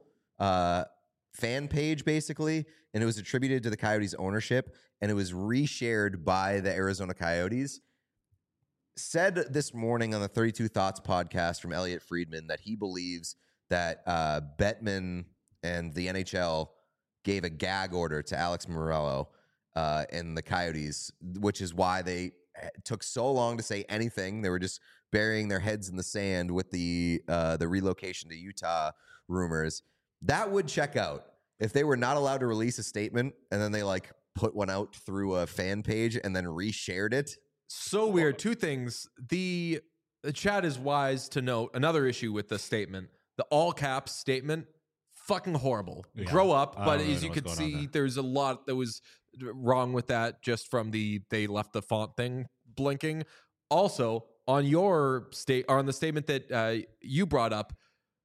S2: fan page, basically, and it was attributed to the Coyotes ownership, and it was reshared by the Arizona Coyotes. Said this morning on the 32 Thoughts podcast from Elliot Friedman that he believes that Bettman and the NHL gave a gag order to Alex Marullo and the Coyotes, which is why they took so long to say anything. They were just burying their heads in the sand with the relocation to Utah rumors. That would check out if they were not allowed to release a statement and then they like put one out through a fan page and then reshared it.
S1: So weird. 2 things. The chat is wise to note another issue with the statement. The all caps statement, fucking horrible. Yeah. Grow up. But as you could see, there's a lot that was wrong with that just from they left the font thing blinking. Also, on your on the statement that you brought up,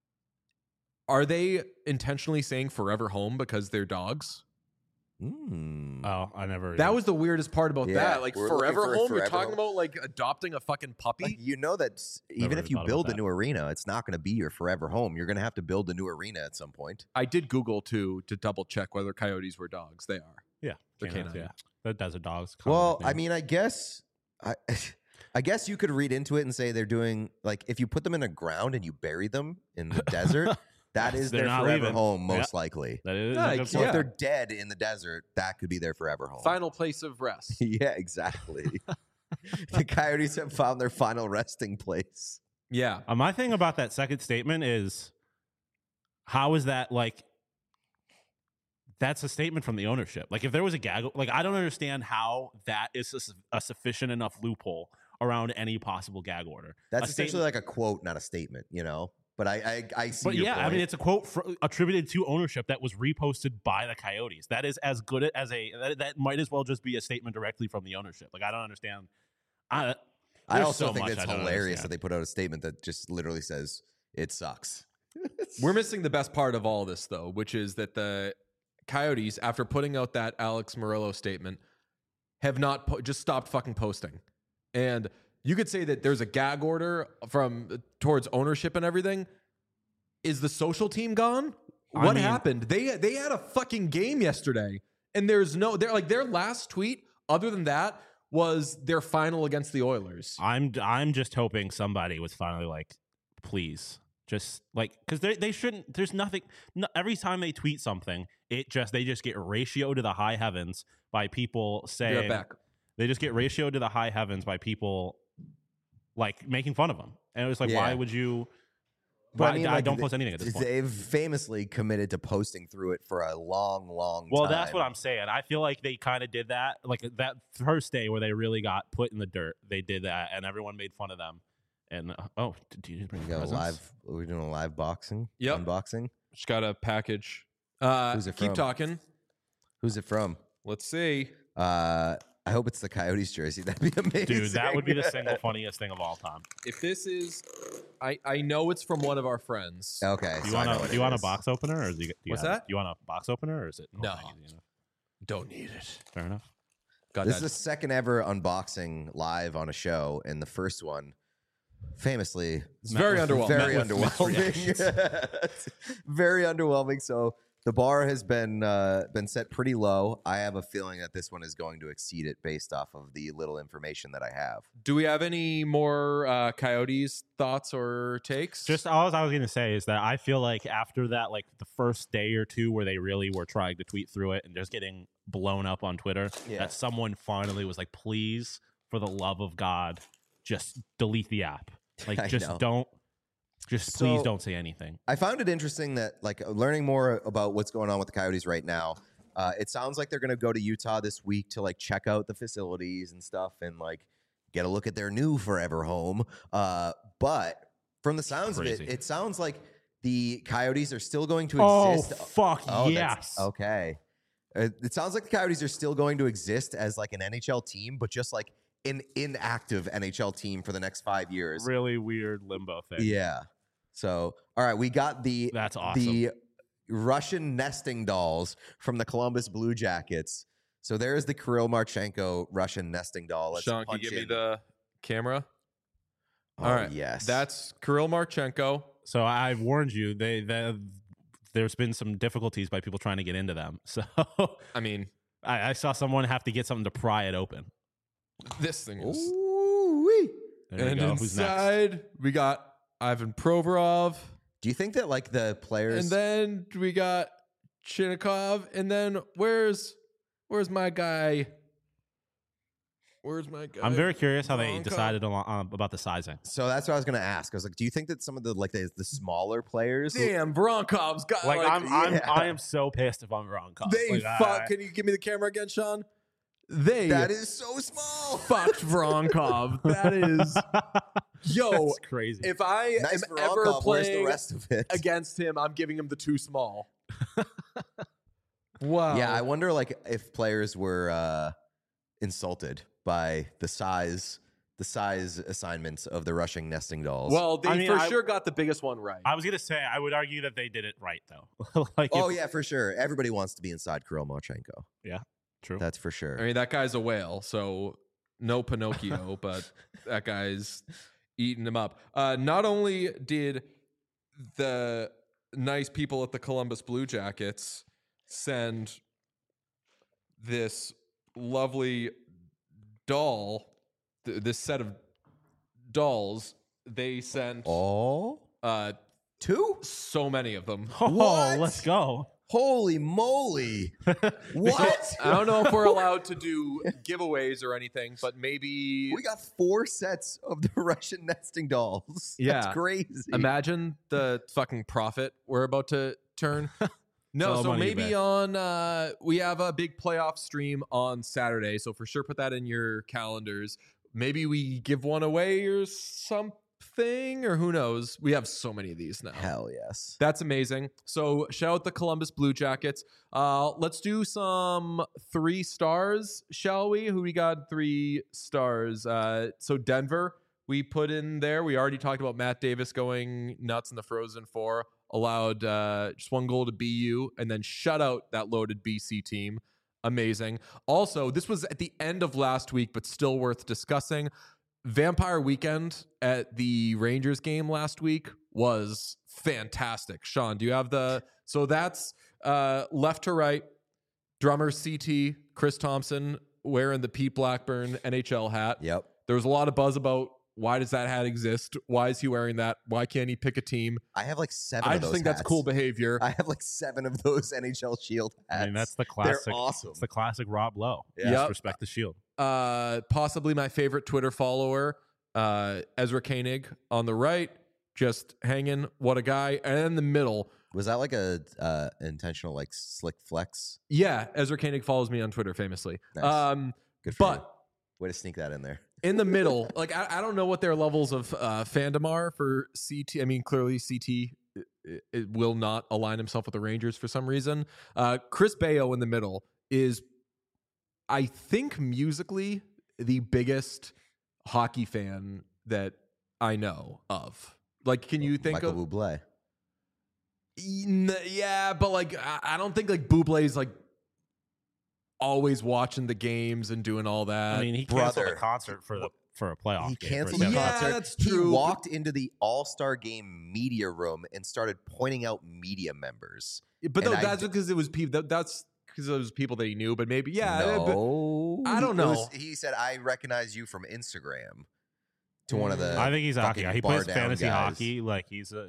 S1: are they intentionally saying forever home because they're dogs?
S3: Oh, I never.
S1: That was the weirdest part about that. Like,
S2: we're
S1: forever
S2: looking for
S1: home?
S2: forever
S1: You're talking
S2: home.
S1: about like adopting a fucking puppy?
S2: You know that even
S3: Never
S2: if you
S3: thought about
S2: build a
S3: that.
S2: new arena, it's not going to be your forever home. You're going to have to build a new arena at some point.
S1: I did Google too to double check whether coyotes were dogs. They are.
S3: Yeah,
S1: They're
S3: canines,
S1: canine.
S3: yeah. The desert dogs.
S2: Well, I mean, I guess you could read into it and say they're doing like if you put them in the ground and you bury them in the desert, that is
S3: They're
S2: their
S3: not
S2: forever
S3: leaving.
S2: home, most
S3: Yep.
S2: likely.
S3: that is
S1: Yeah,
S3: a good
S2: So
S3: point.
S2: if they're dead in the desert, that could be their forever home.
S1: Final place of rest.
S2: Yeah, exactly. The coyotes have found their final resting place.
S1: Yeah.
S3: My thing about that second statement is, how is that like? That's a statement from the ownership. Like, if there was a gag, like, I don't understand how that is a sufficient enough loophole around any possible gag order.
S2: That's
S3: A
S2: essentially
S3: statement-
S2: like a quote, not a statement, you know? But I see
S3: But
S2: your
S3: yeah,
S2: point.
S3: I mean, it's a quote attributed to ownership that was reposted by the Coyotes. That is as good as that might as well just be a statement directly from the ownership. Like, I don't understand.
S2: I
S3: there's
S2: also
S3: so
S2: think
S3: much
S2: it's
S3: I don't
S2: hilarious
S3: understand.
S2: that they put out a statement that just literally says, it sucks.
S1: We're missing the best part of all this, though, which is that the Coyotes, after putting out that Alex Murillo statement, have not just stopped fucking posting. And you could say that there's a gag order towards ownership and everything. Is the social team gone? What happened? They had a fucking game yesterday, and their last tweet, other than that, was their final against the Oilers.
S3: I'm just hoping somebody was finally like, please, just like, because they shouldn't. There's nothing. Every time they tweet something, they just get ratioed to the high heavens by people saying.
S1: Be right back.
S3: They just get ratioed to the high heavens by people like making fun of them, and it was like,
S2: Yeah.
S3: why would you?
S2: But
S3: I
S2: like,
S3: don't post anything at this point.
S2: They've famously committed to posting through it for a long, long
S3: Well,
S2: time.
S3: that's what I'm saying. I feel like they kind of did that, like that first day where they really got put in the dirt. They did that, and everyone made fun of them. And do you bring
S2: We got
S3: presents?
S2: we're doing a live boxing?
S1: Yep.
S2: Unboxing?
S1: Just got a package.
S2: Who's it
S1: Keep
S2: from?
S1: talking.
S2: Who's it from?
S1: Let's see.
S2: I hope it's the Coyotes jersey. That'd be amazing.
S3: Dude, that would be the single funniest thing of all time.
S1: If this is, I know it's from one of our friends.
S2: Okay.
S3: Do you
S2: so I know
S3: want
S2: what
S3: do you
S2: it
S3: want a
S2: is.
S3: box opener, or do you
S1: What's
S3: have it?
S1: that?
S3: Do you want a box opener, or is it
S1: No.
S3: not easy enough?
S1: Don't need it.
S3: Fair enough.
S1: Got
S2: This
S1: that.
S2: is the second ever unboxing live on a show, and the first one, famously,
S1: It's very underwhelming.
S2: very
S3: Met with mixed
S2: underwhelming. Very underwhelming. So the bar has been set pretty low. I have a feeling that this one is going to exceed it based off of the little information that I have.
S1: Do we have any more Coyotes thoughts or takes?
S3: Just all I was going to say is that I feel like after that, like the first day or two where they really were trying to tweet through it and just getting blown up on Twitter,
S2: Yeah.
S3: that someone finally was like, please, for the love of God, just delete the app. Like,
S2: I
S3: just
S2: know.
S3: don't, please
S2: So-
S3: don't say anything.
S2: I found it interesting that, like, learning more about what's going on with the Coyotes right now. It sounds like they're going to go to Utah this week to like check out the facilities and stuff, and like get a look at their new forever home. But from the sounds of
S3: Crazy.
S2: it sounds like the Coyotes are still going to
S3: Oh,
S2: exist.
S3: fuck,
S2: that's-
S3: yes.
S2: Okay. It sounds like the Coyotes are still going to exist as like an NHL team, but just like an inactive NHL team for the next 5 years.
S3: Really weird limbo thing.
S2: Yeah. So, all right, we got the
S3: That's awesome.
S2: the Russian nesting dolls from the Columbus Blue Jackets. So there's the Kirill Marchenko Russian nesting doll. Let's
S1: Sean, can you
S2: punch
S1: give me
S2: in.
S1: the camera?
S2: Oh,
S1: All right.
S2: yes.
S1: That's Kirill Marchenko.
S3: So I warned you, there's been some difficulties by people trying to get into them. So
S1: I mean,
S3: I saw someone have to get something to pry it open.
S1: this thing is.
S2: Ooh-wee.
S3: There you
S1: And
S3: go. Who's next?
S1: inside, we got Ivan Provorov.
S2: Do you think that like the players?
S1: And then we got Chinnikov. And then where's my guy? Where's my guy?
S3: I'm very curious how they
S1: Bronco.
S3: decided about the sizing.
S2: so that's what I was going to ask. I was like, do you think that some of the like the smaller players?
S1: Damn, Bronkov's got
S3: Like,
S2: yeah.
S3: I am so pissed if I'm wrong. Kyle.
S1: They
S3: Like,
S1: fuck. Can you give me the camera again, Sean? They
S2: That is so small.
S1: fucked Vronkov. That is, yo.
S3: That's crazy.
S1: If I
S2: Nice
S1: am
S2: for
S1: ever
S2: Ronkov. Where's the
S1: playing
S2: rest of it?
S1: against him, I'm giving him the too small. Wow.
S2: Yeah, I wonder like if players were insulted by the size size assignments of the Russian nesting dolls.
S1: Well, they sure got the biggest one right.
S3: I was gonna say I would argue that they did it right though.
S2: Yeah, for sure. Everybody wants to be inside Kirill Marchenko.
S3: Yeah, true.
S2: That's for sure.
S1: I mean, that guy's a whale, so no Pinocchio, but that guy's eating him up. Not only did the nice people at the Columbus Blue Jackets send this lovely doll, this set of dolls, they sent
S2: two?
S1: So many of them.
S3: Oh,
S2: What?
S3: let's go.
S2: Holy moly. What?
S1: I don't know if we're allowed to do giveaways or anything, but maybe
S2: We got 4 sets of the Russian nesting dolls.
S1: Yeah.
S2: That's crazy.
S1: imagine the fucking profit we're about to turn. No,
S3: All
S1: so
S3: money
S1: maybe
S3: back.
S1: on we have a big playoff stream on Saturday, so for sure put that in your calendars. Maybe we give one away or something, or who knows? We have so many of these now.
S2: Hell yes.
S1: That's amazing. So shout out the Columbus Blue Jackets. Let's do some 3 stars, shall we? Who we got 3 stars? So Denver, we put in there. We already talked about Matt Davis going nuts in the Frozen Four. Allowed just 1 goal to BU, and then shut out that loaded BC team. Amazing. Also, this was at the end of last week, but still worth discussing. Vampire Weekend at the Rangers game last week was fantastic. Sean, do you have the... So that's left to right, drummer CT, Chris Thompson wearing the Pete Blackburn NHL hat.
S2: Yep.
S1: There was a lot of buzz about why does that hat exist? Why is he wearing that? Why can't he pick a team?
S2: I have like 7
S1: I
S2: of those
S1: just think that's
S2: hats.
S1: cool behavior.
S2: I have like 7 of those NHL Shield hats.
S3: I mean, that's the classic.
S2: They're awesome.
S3: It's the classic Rob Lowe.
S2: Yeah.
S3: Just
S1: Yep.
S3: respect the shield.
S1: Possibly my favorite Twitter follower, Ezra Koenig on the right, just hanging. What a guy. And in the middle,
S2: Was that like a intentional like slick flex?
S1: yeah, Ezra Koenig follows me on Twitter famously.
S2: Nice. Good for
S1: But
S2: you. Way to sneak that in there.
S1: in the middle, like I don't know what their levels of fandom are for CT. I mean, clearly CT it will not align himself with the Rangers for some reason. Chris Bayo in the middle is, I think, musically the biggest hockey fan that I know of. Like, can you think
S2: Michael
S1: of?
S2: Bublé.
S1: Yeah, but like I don't think like Bublé's like always watching the games and doing all that.
S3: I mean, he canceled
S2: brother.
S3: a concert for a playoff
S2: He
S3: game.
S2: canceled
S3: for
S2: the
S3: his
S1: Yeah,
S2: concert.
S1: that's
S2: He
S1: true.
S2: walked into the All-Star Game media room and started pointing out media members.
S1: But no,
S2: and I
S1: that's because it was people. That's because it was people that he knew. But maybe, yeah. But
S2: No.
S1: I don't know.
S2: He said, "I recognize you from Instagram." To one of the
S3: I think he's a hockey
S2: fucking
S3: guy. He plays
S2: bar-down
S3: fantasy
S2: guys.
S3: hockey. Like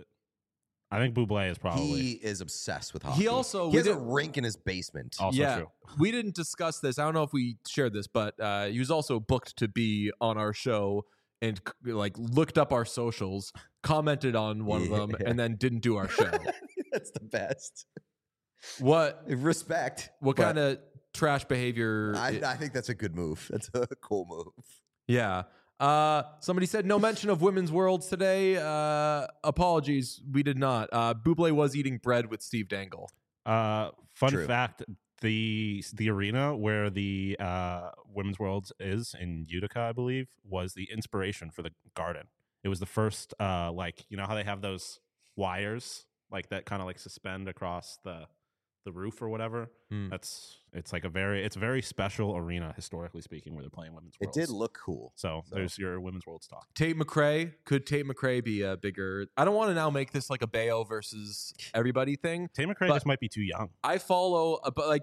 S3: I think Bublé is probably
S2: He is obsessed with hockey.
S1: He also
S2: he has a
S1: did-
S2: rink in his basement.
S3: also
S1: yeah,
S3: true.
S1: we didn't discuss this. I don't know if we shared this, but he was also booked to be on our show and like looked up our socials, commented on one of them,
S2: Yeah.
S1: and then didn't do our show.
S2: That's the best.
S1: What
S2: Respect.
S1: what
S2: but
S1: kind of trash behavior?
S2: I think that's a good move. That's a cool move.
S1: Yeah. Somebody said no mention of Women's Worlds today. Apologies, we did not. Bublé was eating bread with Steve Dangle.
S3: Fun
S2: True.
S3: fact: the arena where the Women's Worlds is in Utica, I believe, was the inspiration for the Garden. It was the first, like, you know how they have those wires like that kind of like suspend across the roof or whatever.
S1: Hmm.
S3: It's a very special arena historically speaking where they're playing Women's
S2: It
S3: Worlds.
S2: did look cool.
S3: So there's your Women's Worlds talk.
S1: Tate McRae. Could Tate McRae be a bigger? I don't want to now make this like a Bayo versus everybody thing.
S3: Tate McRae
S1: But-
S3: just might be too young.
S1: I follow, but like,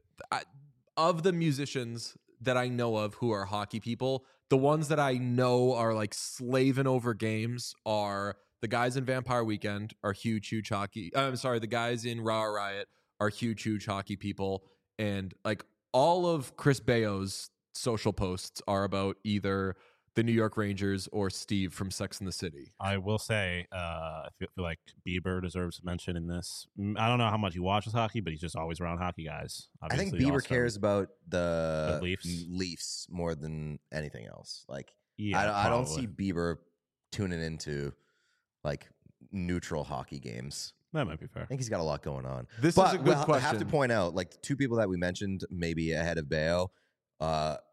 S1: of the musicians that I know of who are hockey people, the ones that I know are like slaving over games are the guys in Vampire Weekend are huge hockey. I'm sorry, the guys in Raw Riot are huge hockey people, and like all of Chris Bayo's social posts are about either the New York Rangers or Steve from Sex and the City.
S3: I will say, I feel like Bieber deserves mention in this. I don't know how much he watches hockey, but he's just always around hockey guys.
S2: I think
S3: Obviously,
S2: Bieber
S3: also-
S2: cares about
S3: The
S2: the
S3: Leafs?
S2: Leafs more than anything else. Like
S3: Yeah,
S2: I don't
S3: probably.
S2: see Bieber tuning into like neutral hockey games.
S3: That might be fair.
S2: I think he's got a lot going on.
S1: This
S2: But
S1: is a good
S2: we'll
S1: question.
S2: I have to point out, like, the 2 people that we mentioned maybe ahead of Bayo,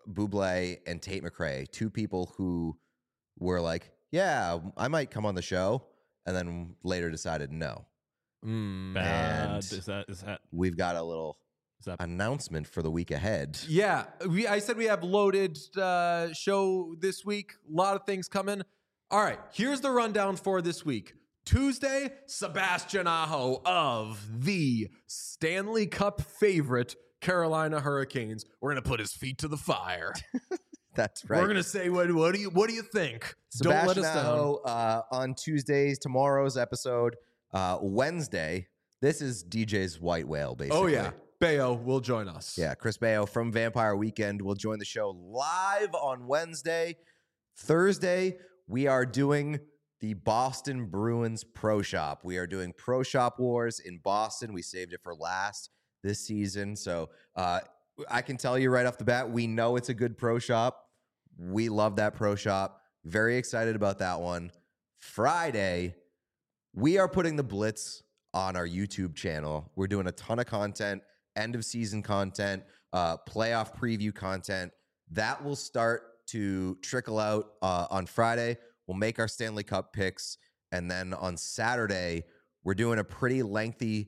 S2: Buble and Tate McRae, two people who were like, yeah, I might come on the show, and then later decided no.
S3: Bad. Is that
S2: we've got a little announcement for the week ahead.
S1: Yeah, I said we have loaded show this week. A lot of things coming. All right, here's the rundown for this week. Tuesday, Sebastian Aho of the Stanley Cup favorite Carolina Hurricanes. We're gonna put his feet to the fire.
S2: That's right.
S1: We're gonna say, what do you think?
S2: Sebastian
S1: Don't let us
S2: Aho,
S1: down.
S2: On Tuesdays, tomorrow's episode. Wednesday, this is DJ's White Whale, basically.
S1: Oh yeah, Bayo will join us.
S2: Yeah, Chris Bayo from Vampire Weekend will join the show live on Wednesday. Thursday, we are doing the Boston Bruins Pro Shop. We are doing Pro Shop Wars in Boston. We saved it for last this season. So I can tell you right off the bat, we know it's a good Pro Shop. We love that Pro Shop. Very excited about that one. Friday, we are putting the Blitz on our YouTube channel. We're doing a ton of content, end of season content, playoff preview content. That will start to trickle out on Friday. We'll make our Stanley Cup picks. And then on Saturday, we're doing a pretty lengthy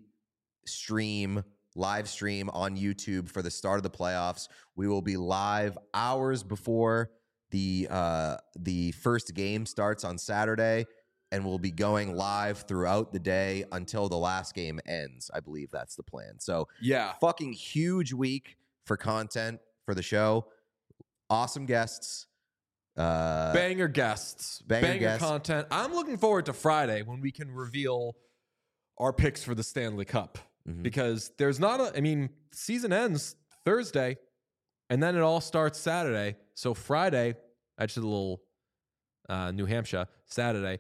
S2: live stream on YouTube for the start of the playoffs. We will be live hours before the first game starts on Saturday. And we'll be going live throughout the day until the last game ends. I believe that's the plan. So
S1: yeah,
S2: fucking huge week for content for the show. Awesome guests.
S1: Banger guests. Banger content. I'm looking forward to Friday when we can reveal our picks for the Stanley Cup. Because there's not season ends Thursday, and then it all starts Saturday. So Friday, actually a little New Hampshire, Saturday.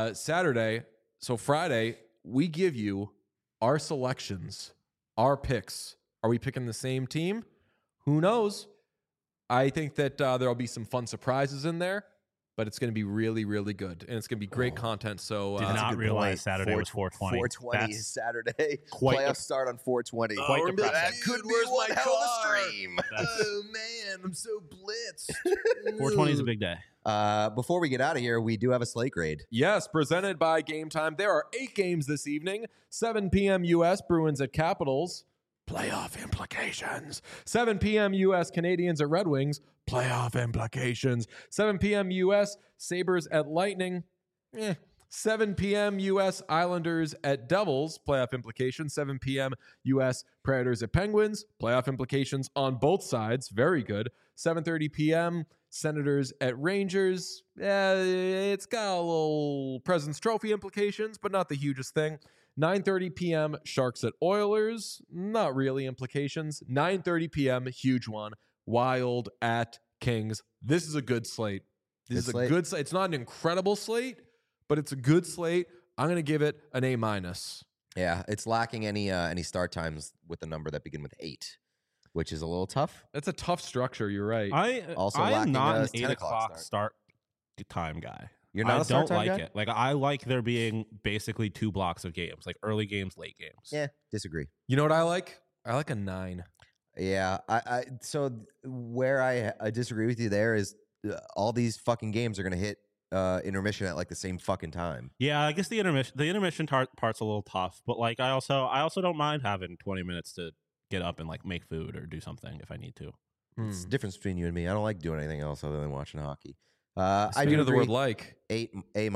S1: So Friday, we give you our selections, our picks. Are we picking the same team? Who knows? I think that there'll be some fun surprises in there, but it's going to be really, really good. And it's going to be great content. So
S3: did not realize Saturday was 420.
S2: 420 is Saturday.
S3: Quite
S2: Playoffs start on 420.
S3: Quite depressing.
S2: That could be one hell of a stream.
S1: Oh, man, I'm so blitzed.
S3: 420 is a big day.
S2: Before we get out of here, we do have a slate grade.
S1: Yes, presented by Game Time. There are 8 games this evening. 7 p.m. U.S. Bruins at Capitals. Playoff implications. 7 p.m. U.S. Canadians at Red Wings. Playoff implications. 7 p.m. U.S. Sabres at Lightning. 7 p.m. U.S. Islanders at Devils. Playoff implications. 7 p.m. U.S. Predators at Penguins. Playoff implications on both sides. Very good. 7:30 p.m. Senators at Rangers. It's got a little President's Trophy implications, but not the hugest thing. 9:30 p.m. Sharks at Oilers. Not really implications. 9:30 p.m. Huge one. Wild at Kings. This is a good slate. This is a good slate. It's not an incredible slate, but it's a good slate. I'm going to give it an A-.
S2: Yeah, it's lacking any start times with the number that begin with 8, which is a little tough.
S1: That's a tough structure. You're right.
S3: I am not an 8 o'clock start time guy.
S2: You're not a start time guy?
S3: I don't like it. Like, I like there being basically 2 blocks of games, like early games, late games.
S2: Yeah, disagree.
S1: You know what I like? I like a 9.
S2: Yeah, so where I disagree with you there is all these fucking games are going to hit intermission at like the same fucking time.
S3: Yeah, I guess the intermission part's a little tough, but like I also don't mind having 20 minutes to get up and like make food or do something if I need to.
S2: It's the difference between you and me. I don't like doing anything else other than watching hockey.
S1: Speaking of the word like.
S2: 8 A-.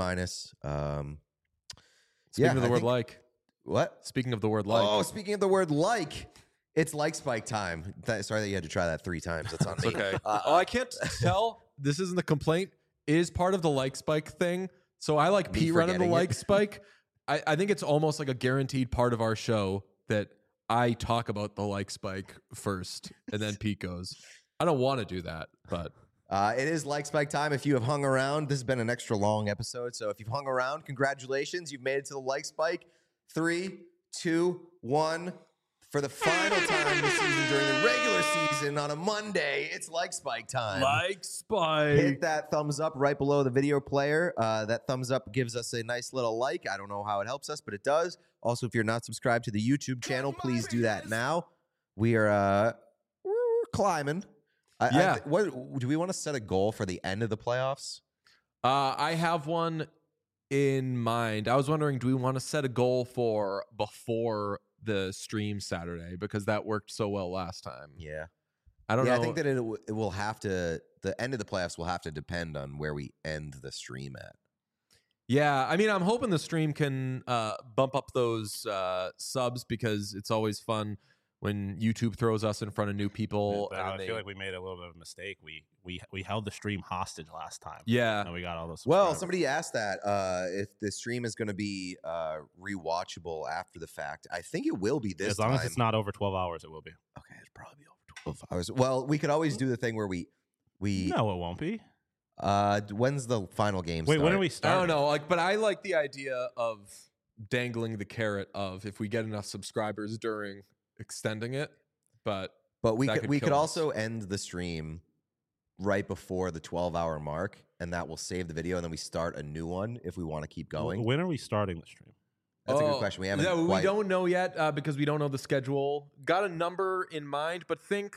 S1: Speaking of the word like.
S2: What?
S1: Speaking of the word like.
S2: Oh, speaking of the word like. It's like Spike time. Sorry that you had to try that 3 times. That's on me.
S1: Okay. I can't tell. This isn't the complaint. Is part of the like Spike thing. So I like Pete running the like Spike. I think it's almost like a guaranteed part of our show that I talk about the like Spike first, and then Pete goes. I don't want to do that, but
S2: it is like Spike time. If you have hung around, this has been an extra long episode. So if you've hung around, congratulations. You've made it to the like Spike. 3, 2, 1. For the final time this season during the regular season on a Monday, it's like Spike time.
S1: Like Spike.
S2: Hit that thumbs up right below the video player. That thumbs up gives us a nice little like. I don't know how it helps us, but it does. Also, if you're not subscribed to the YouTube channel, please do that now. We're climbing. What do we want to set a goal for the end of the playoffs?
S1: I have one in mind. I was wondering, do we want to set a goal for before the stream Saturday, because that worked so well last time?
S2: Yeah.
S1: I don't know.
S2: I think that it will have to, the end of the playoffs will have to depend on where we end the stream at.
S1: Yeah, I mean, I'm hoping the stream can bump up those subs, because it's always fun when YouTube throws us in front of new people.
S3: But I feel like we made a little bit of a mistake. We held the stream hostage last time.
S1: Yeah.
S3: And we got all those.
S2: Well, somebody asked that if the stream is going to be rewatchable after the fact. I think it will be this time.
S3: As long as it's not over 12 hours, it will be.
S2: Okay, it's probably over 12 hours. Well, we could always do the thing where we
S3: No, it won't be.
S2: When's the final game
S3: Wait,
S2: start?
S3: when are we starting?
S1: I don't know, but I like the idea of dangling the carrot of, if we get enough subscribers during extending it. But
S2: we could also end the stream right before the 12-hour mark, and that will save the video, and then we start a new one if we want to keep going.
S3: When are we starting the stream?
S2: That's a good question. We haven't.
S1: We don't know yet because we don't know the schedule. Got a number in mind, but think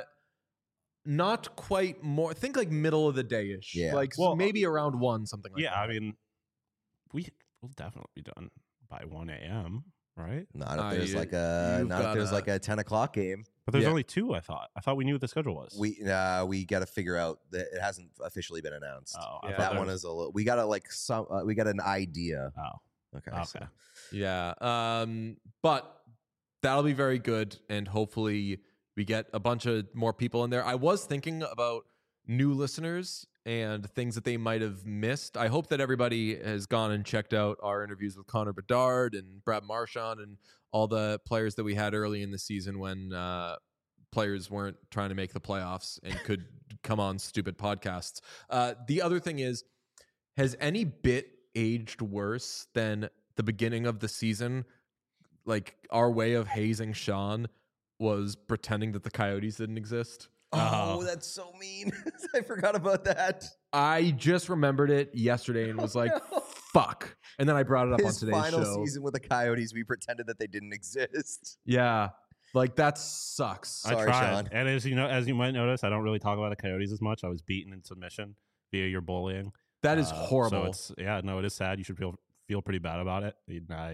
S1: not quite more. Think like middle of the day-ish.
S2: Yeah.
S1: Like maybe around 1, something like that.
S3: Yeah, I mean, we'll definitely be done by 1 a.m., right?
S2: Not if there's like a 10 o'clock game.
S3: But there's only 2, I thought. I thought we knew what the schedule was.
S2: We got to figure out that it hasn't officially been announced.
S3: Oh,
S1: yeah.
S2: That one is a little. We got to we got an idea.
S3: Oh,
S2: Okay.
S3: okay.
S2: So.
S1: Yeah. But that'll be very good, and hopefully we get a bunch of more people in there. I was thinking about new listeners and things that they might have missed. I hope that everybody has gone and checked out our interviews with Connor Bedard and Brad Marchand and all the players that we had early in the season when players weren't trying to make the playoffs and could come on stupid podcasts. The other thing is, has any bit aged worse than the beginning of the season? Like, our way of hazing Sean was pretending that the Coyotes didn't exist.
S2: Oh, that's so mean. I forgot about that.
S1: I just remembered it yesterday and was like, fuck. And then I brought it up on today's show.
S2: His final season with the Coyotes, we pretended that they didn't exist.
S1: Yeah. Like, that sucks.
S2: Sorry,
S3: I tried.
S2: Sean.
S3: And as you might notice, I don't really talk about the Coyotes as much. I was beaten in submission via your bullying.
S1: That is horrible.
S3: So it is sad. You should feel pretty bad about it.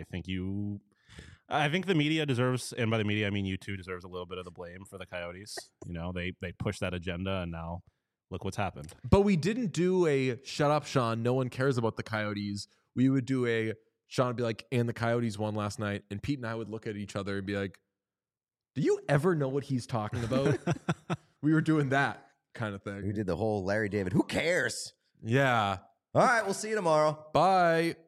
S3: I think the media deserves, and by the media I mean you two, deserves a little bit of the blame for the Coyotes. You know, they pushed that agenda, and now look what's happened.
S1: But we didn't do a shut up, Sean, no one cares about the Coyotes. We would do a, Sean would be like, and the Coyotes won last night. And Pete and I would look at each other and be like, do you ever know what he's talking about? We were doing that kind of thing.
S2: We did the whole Larry David. Who cares?
S1: Yeah.
S2: All right, we'll see you tomorrow.
S1: Bye.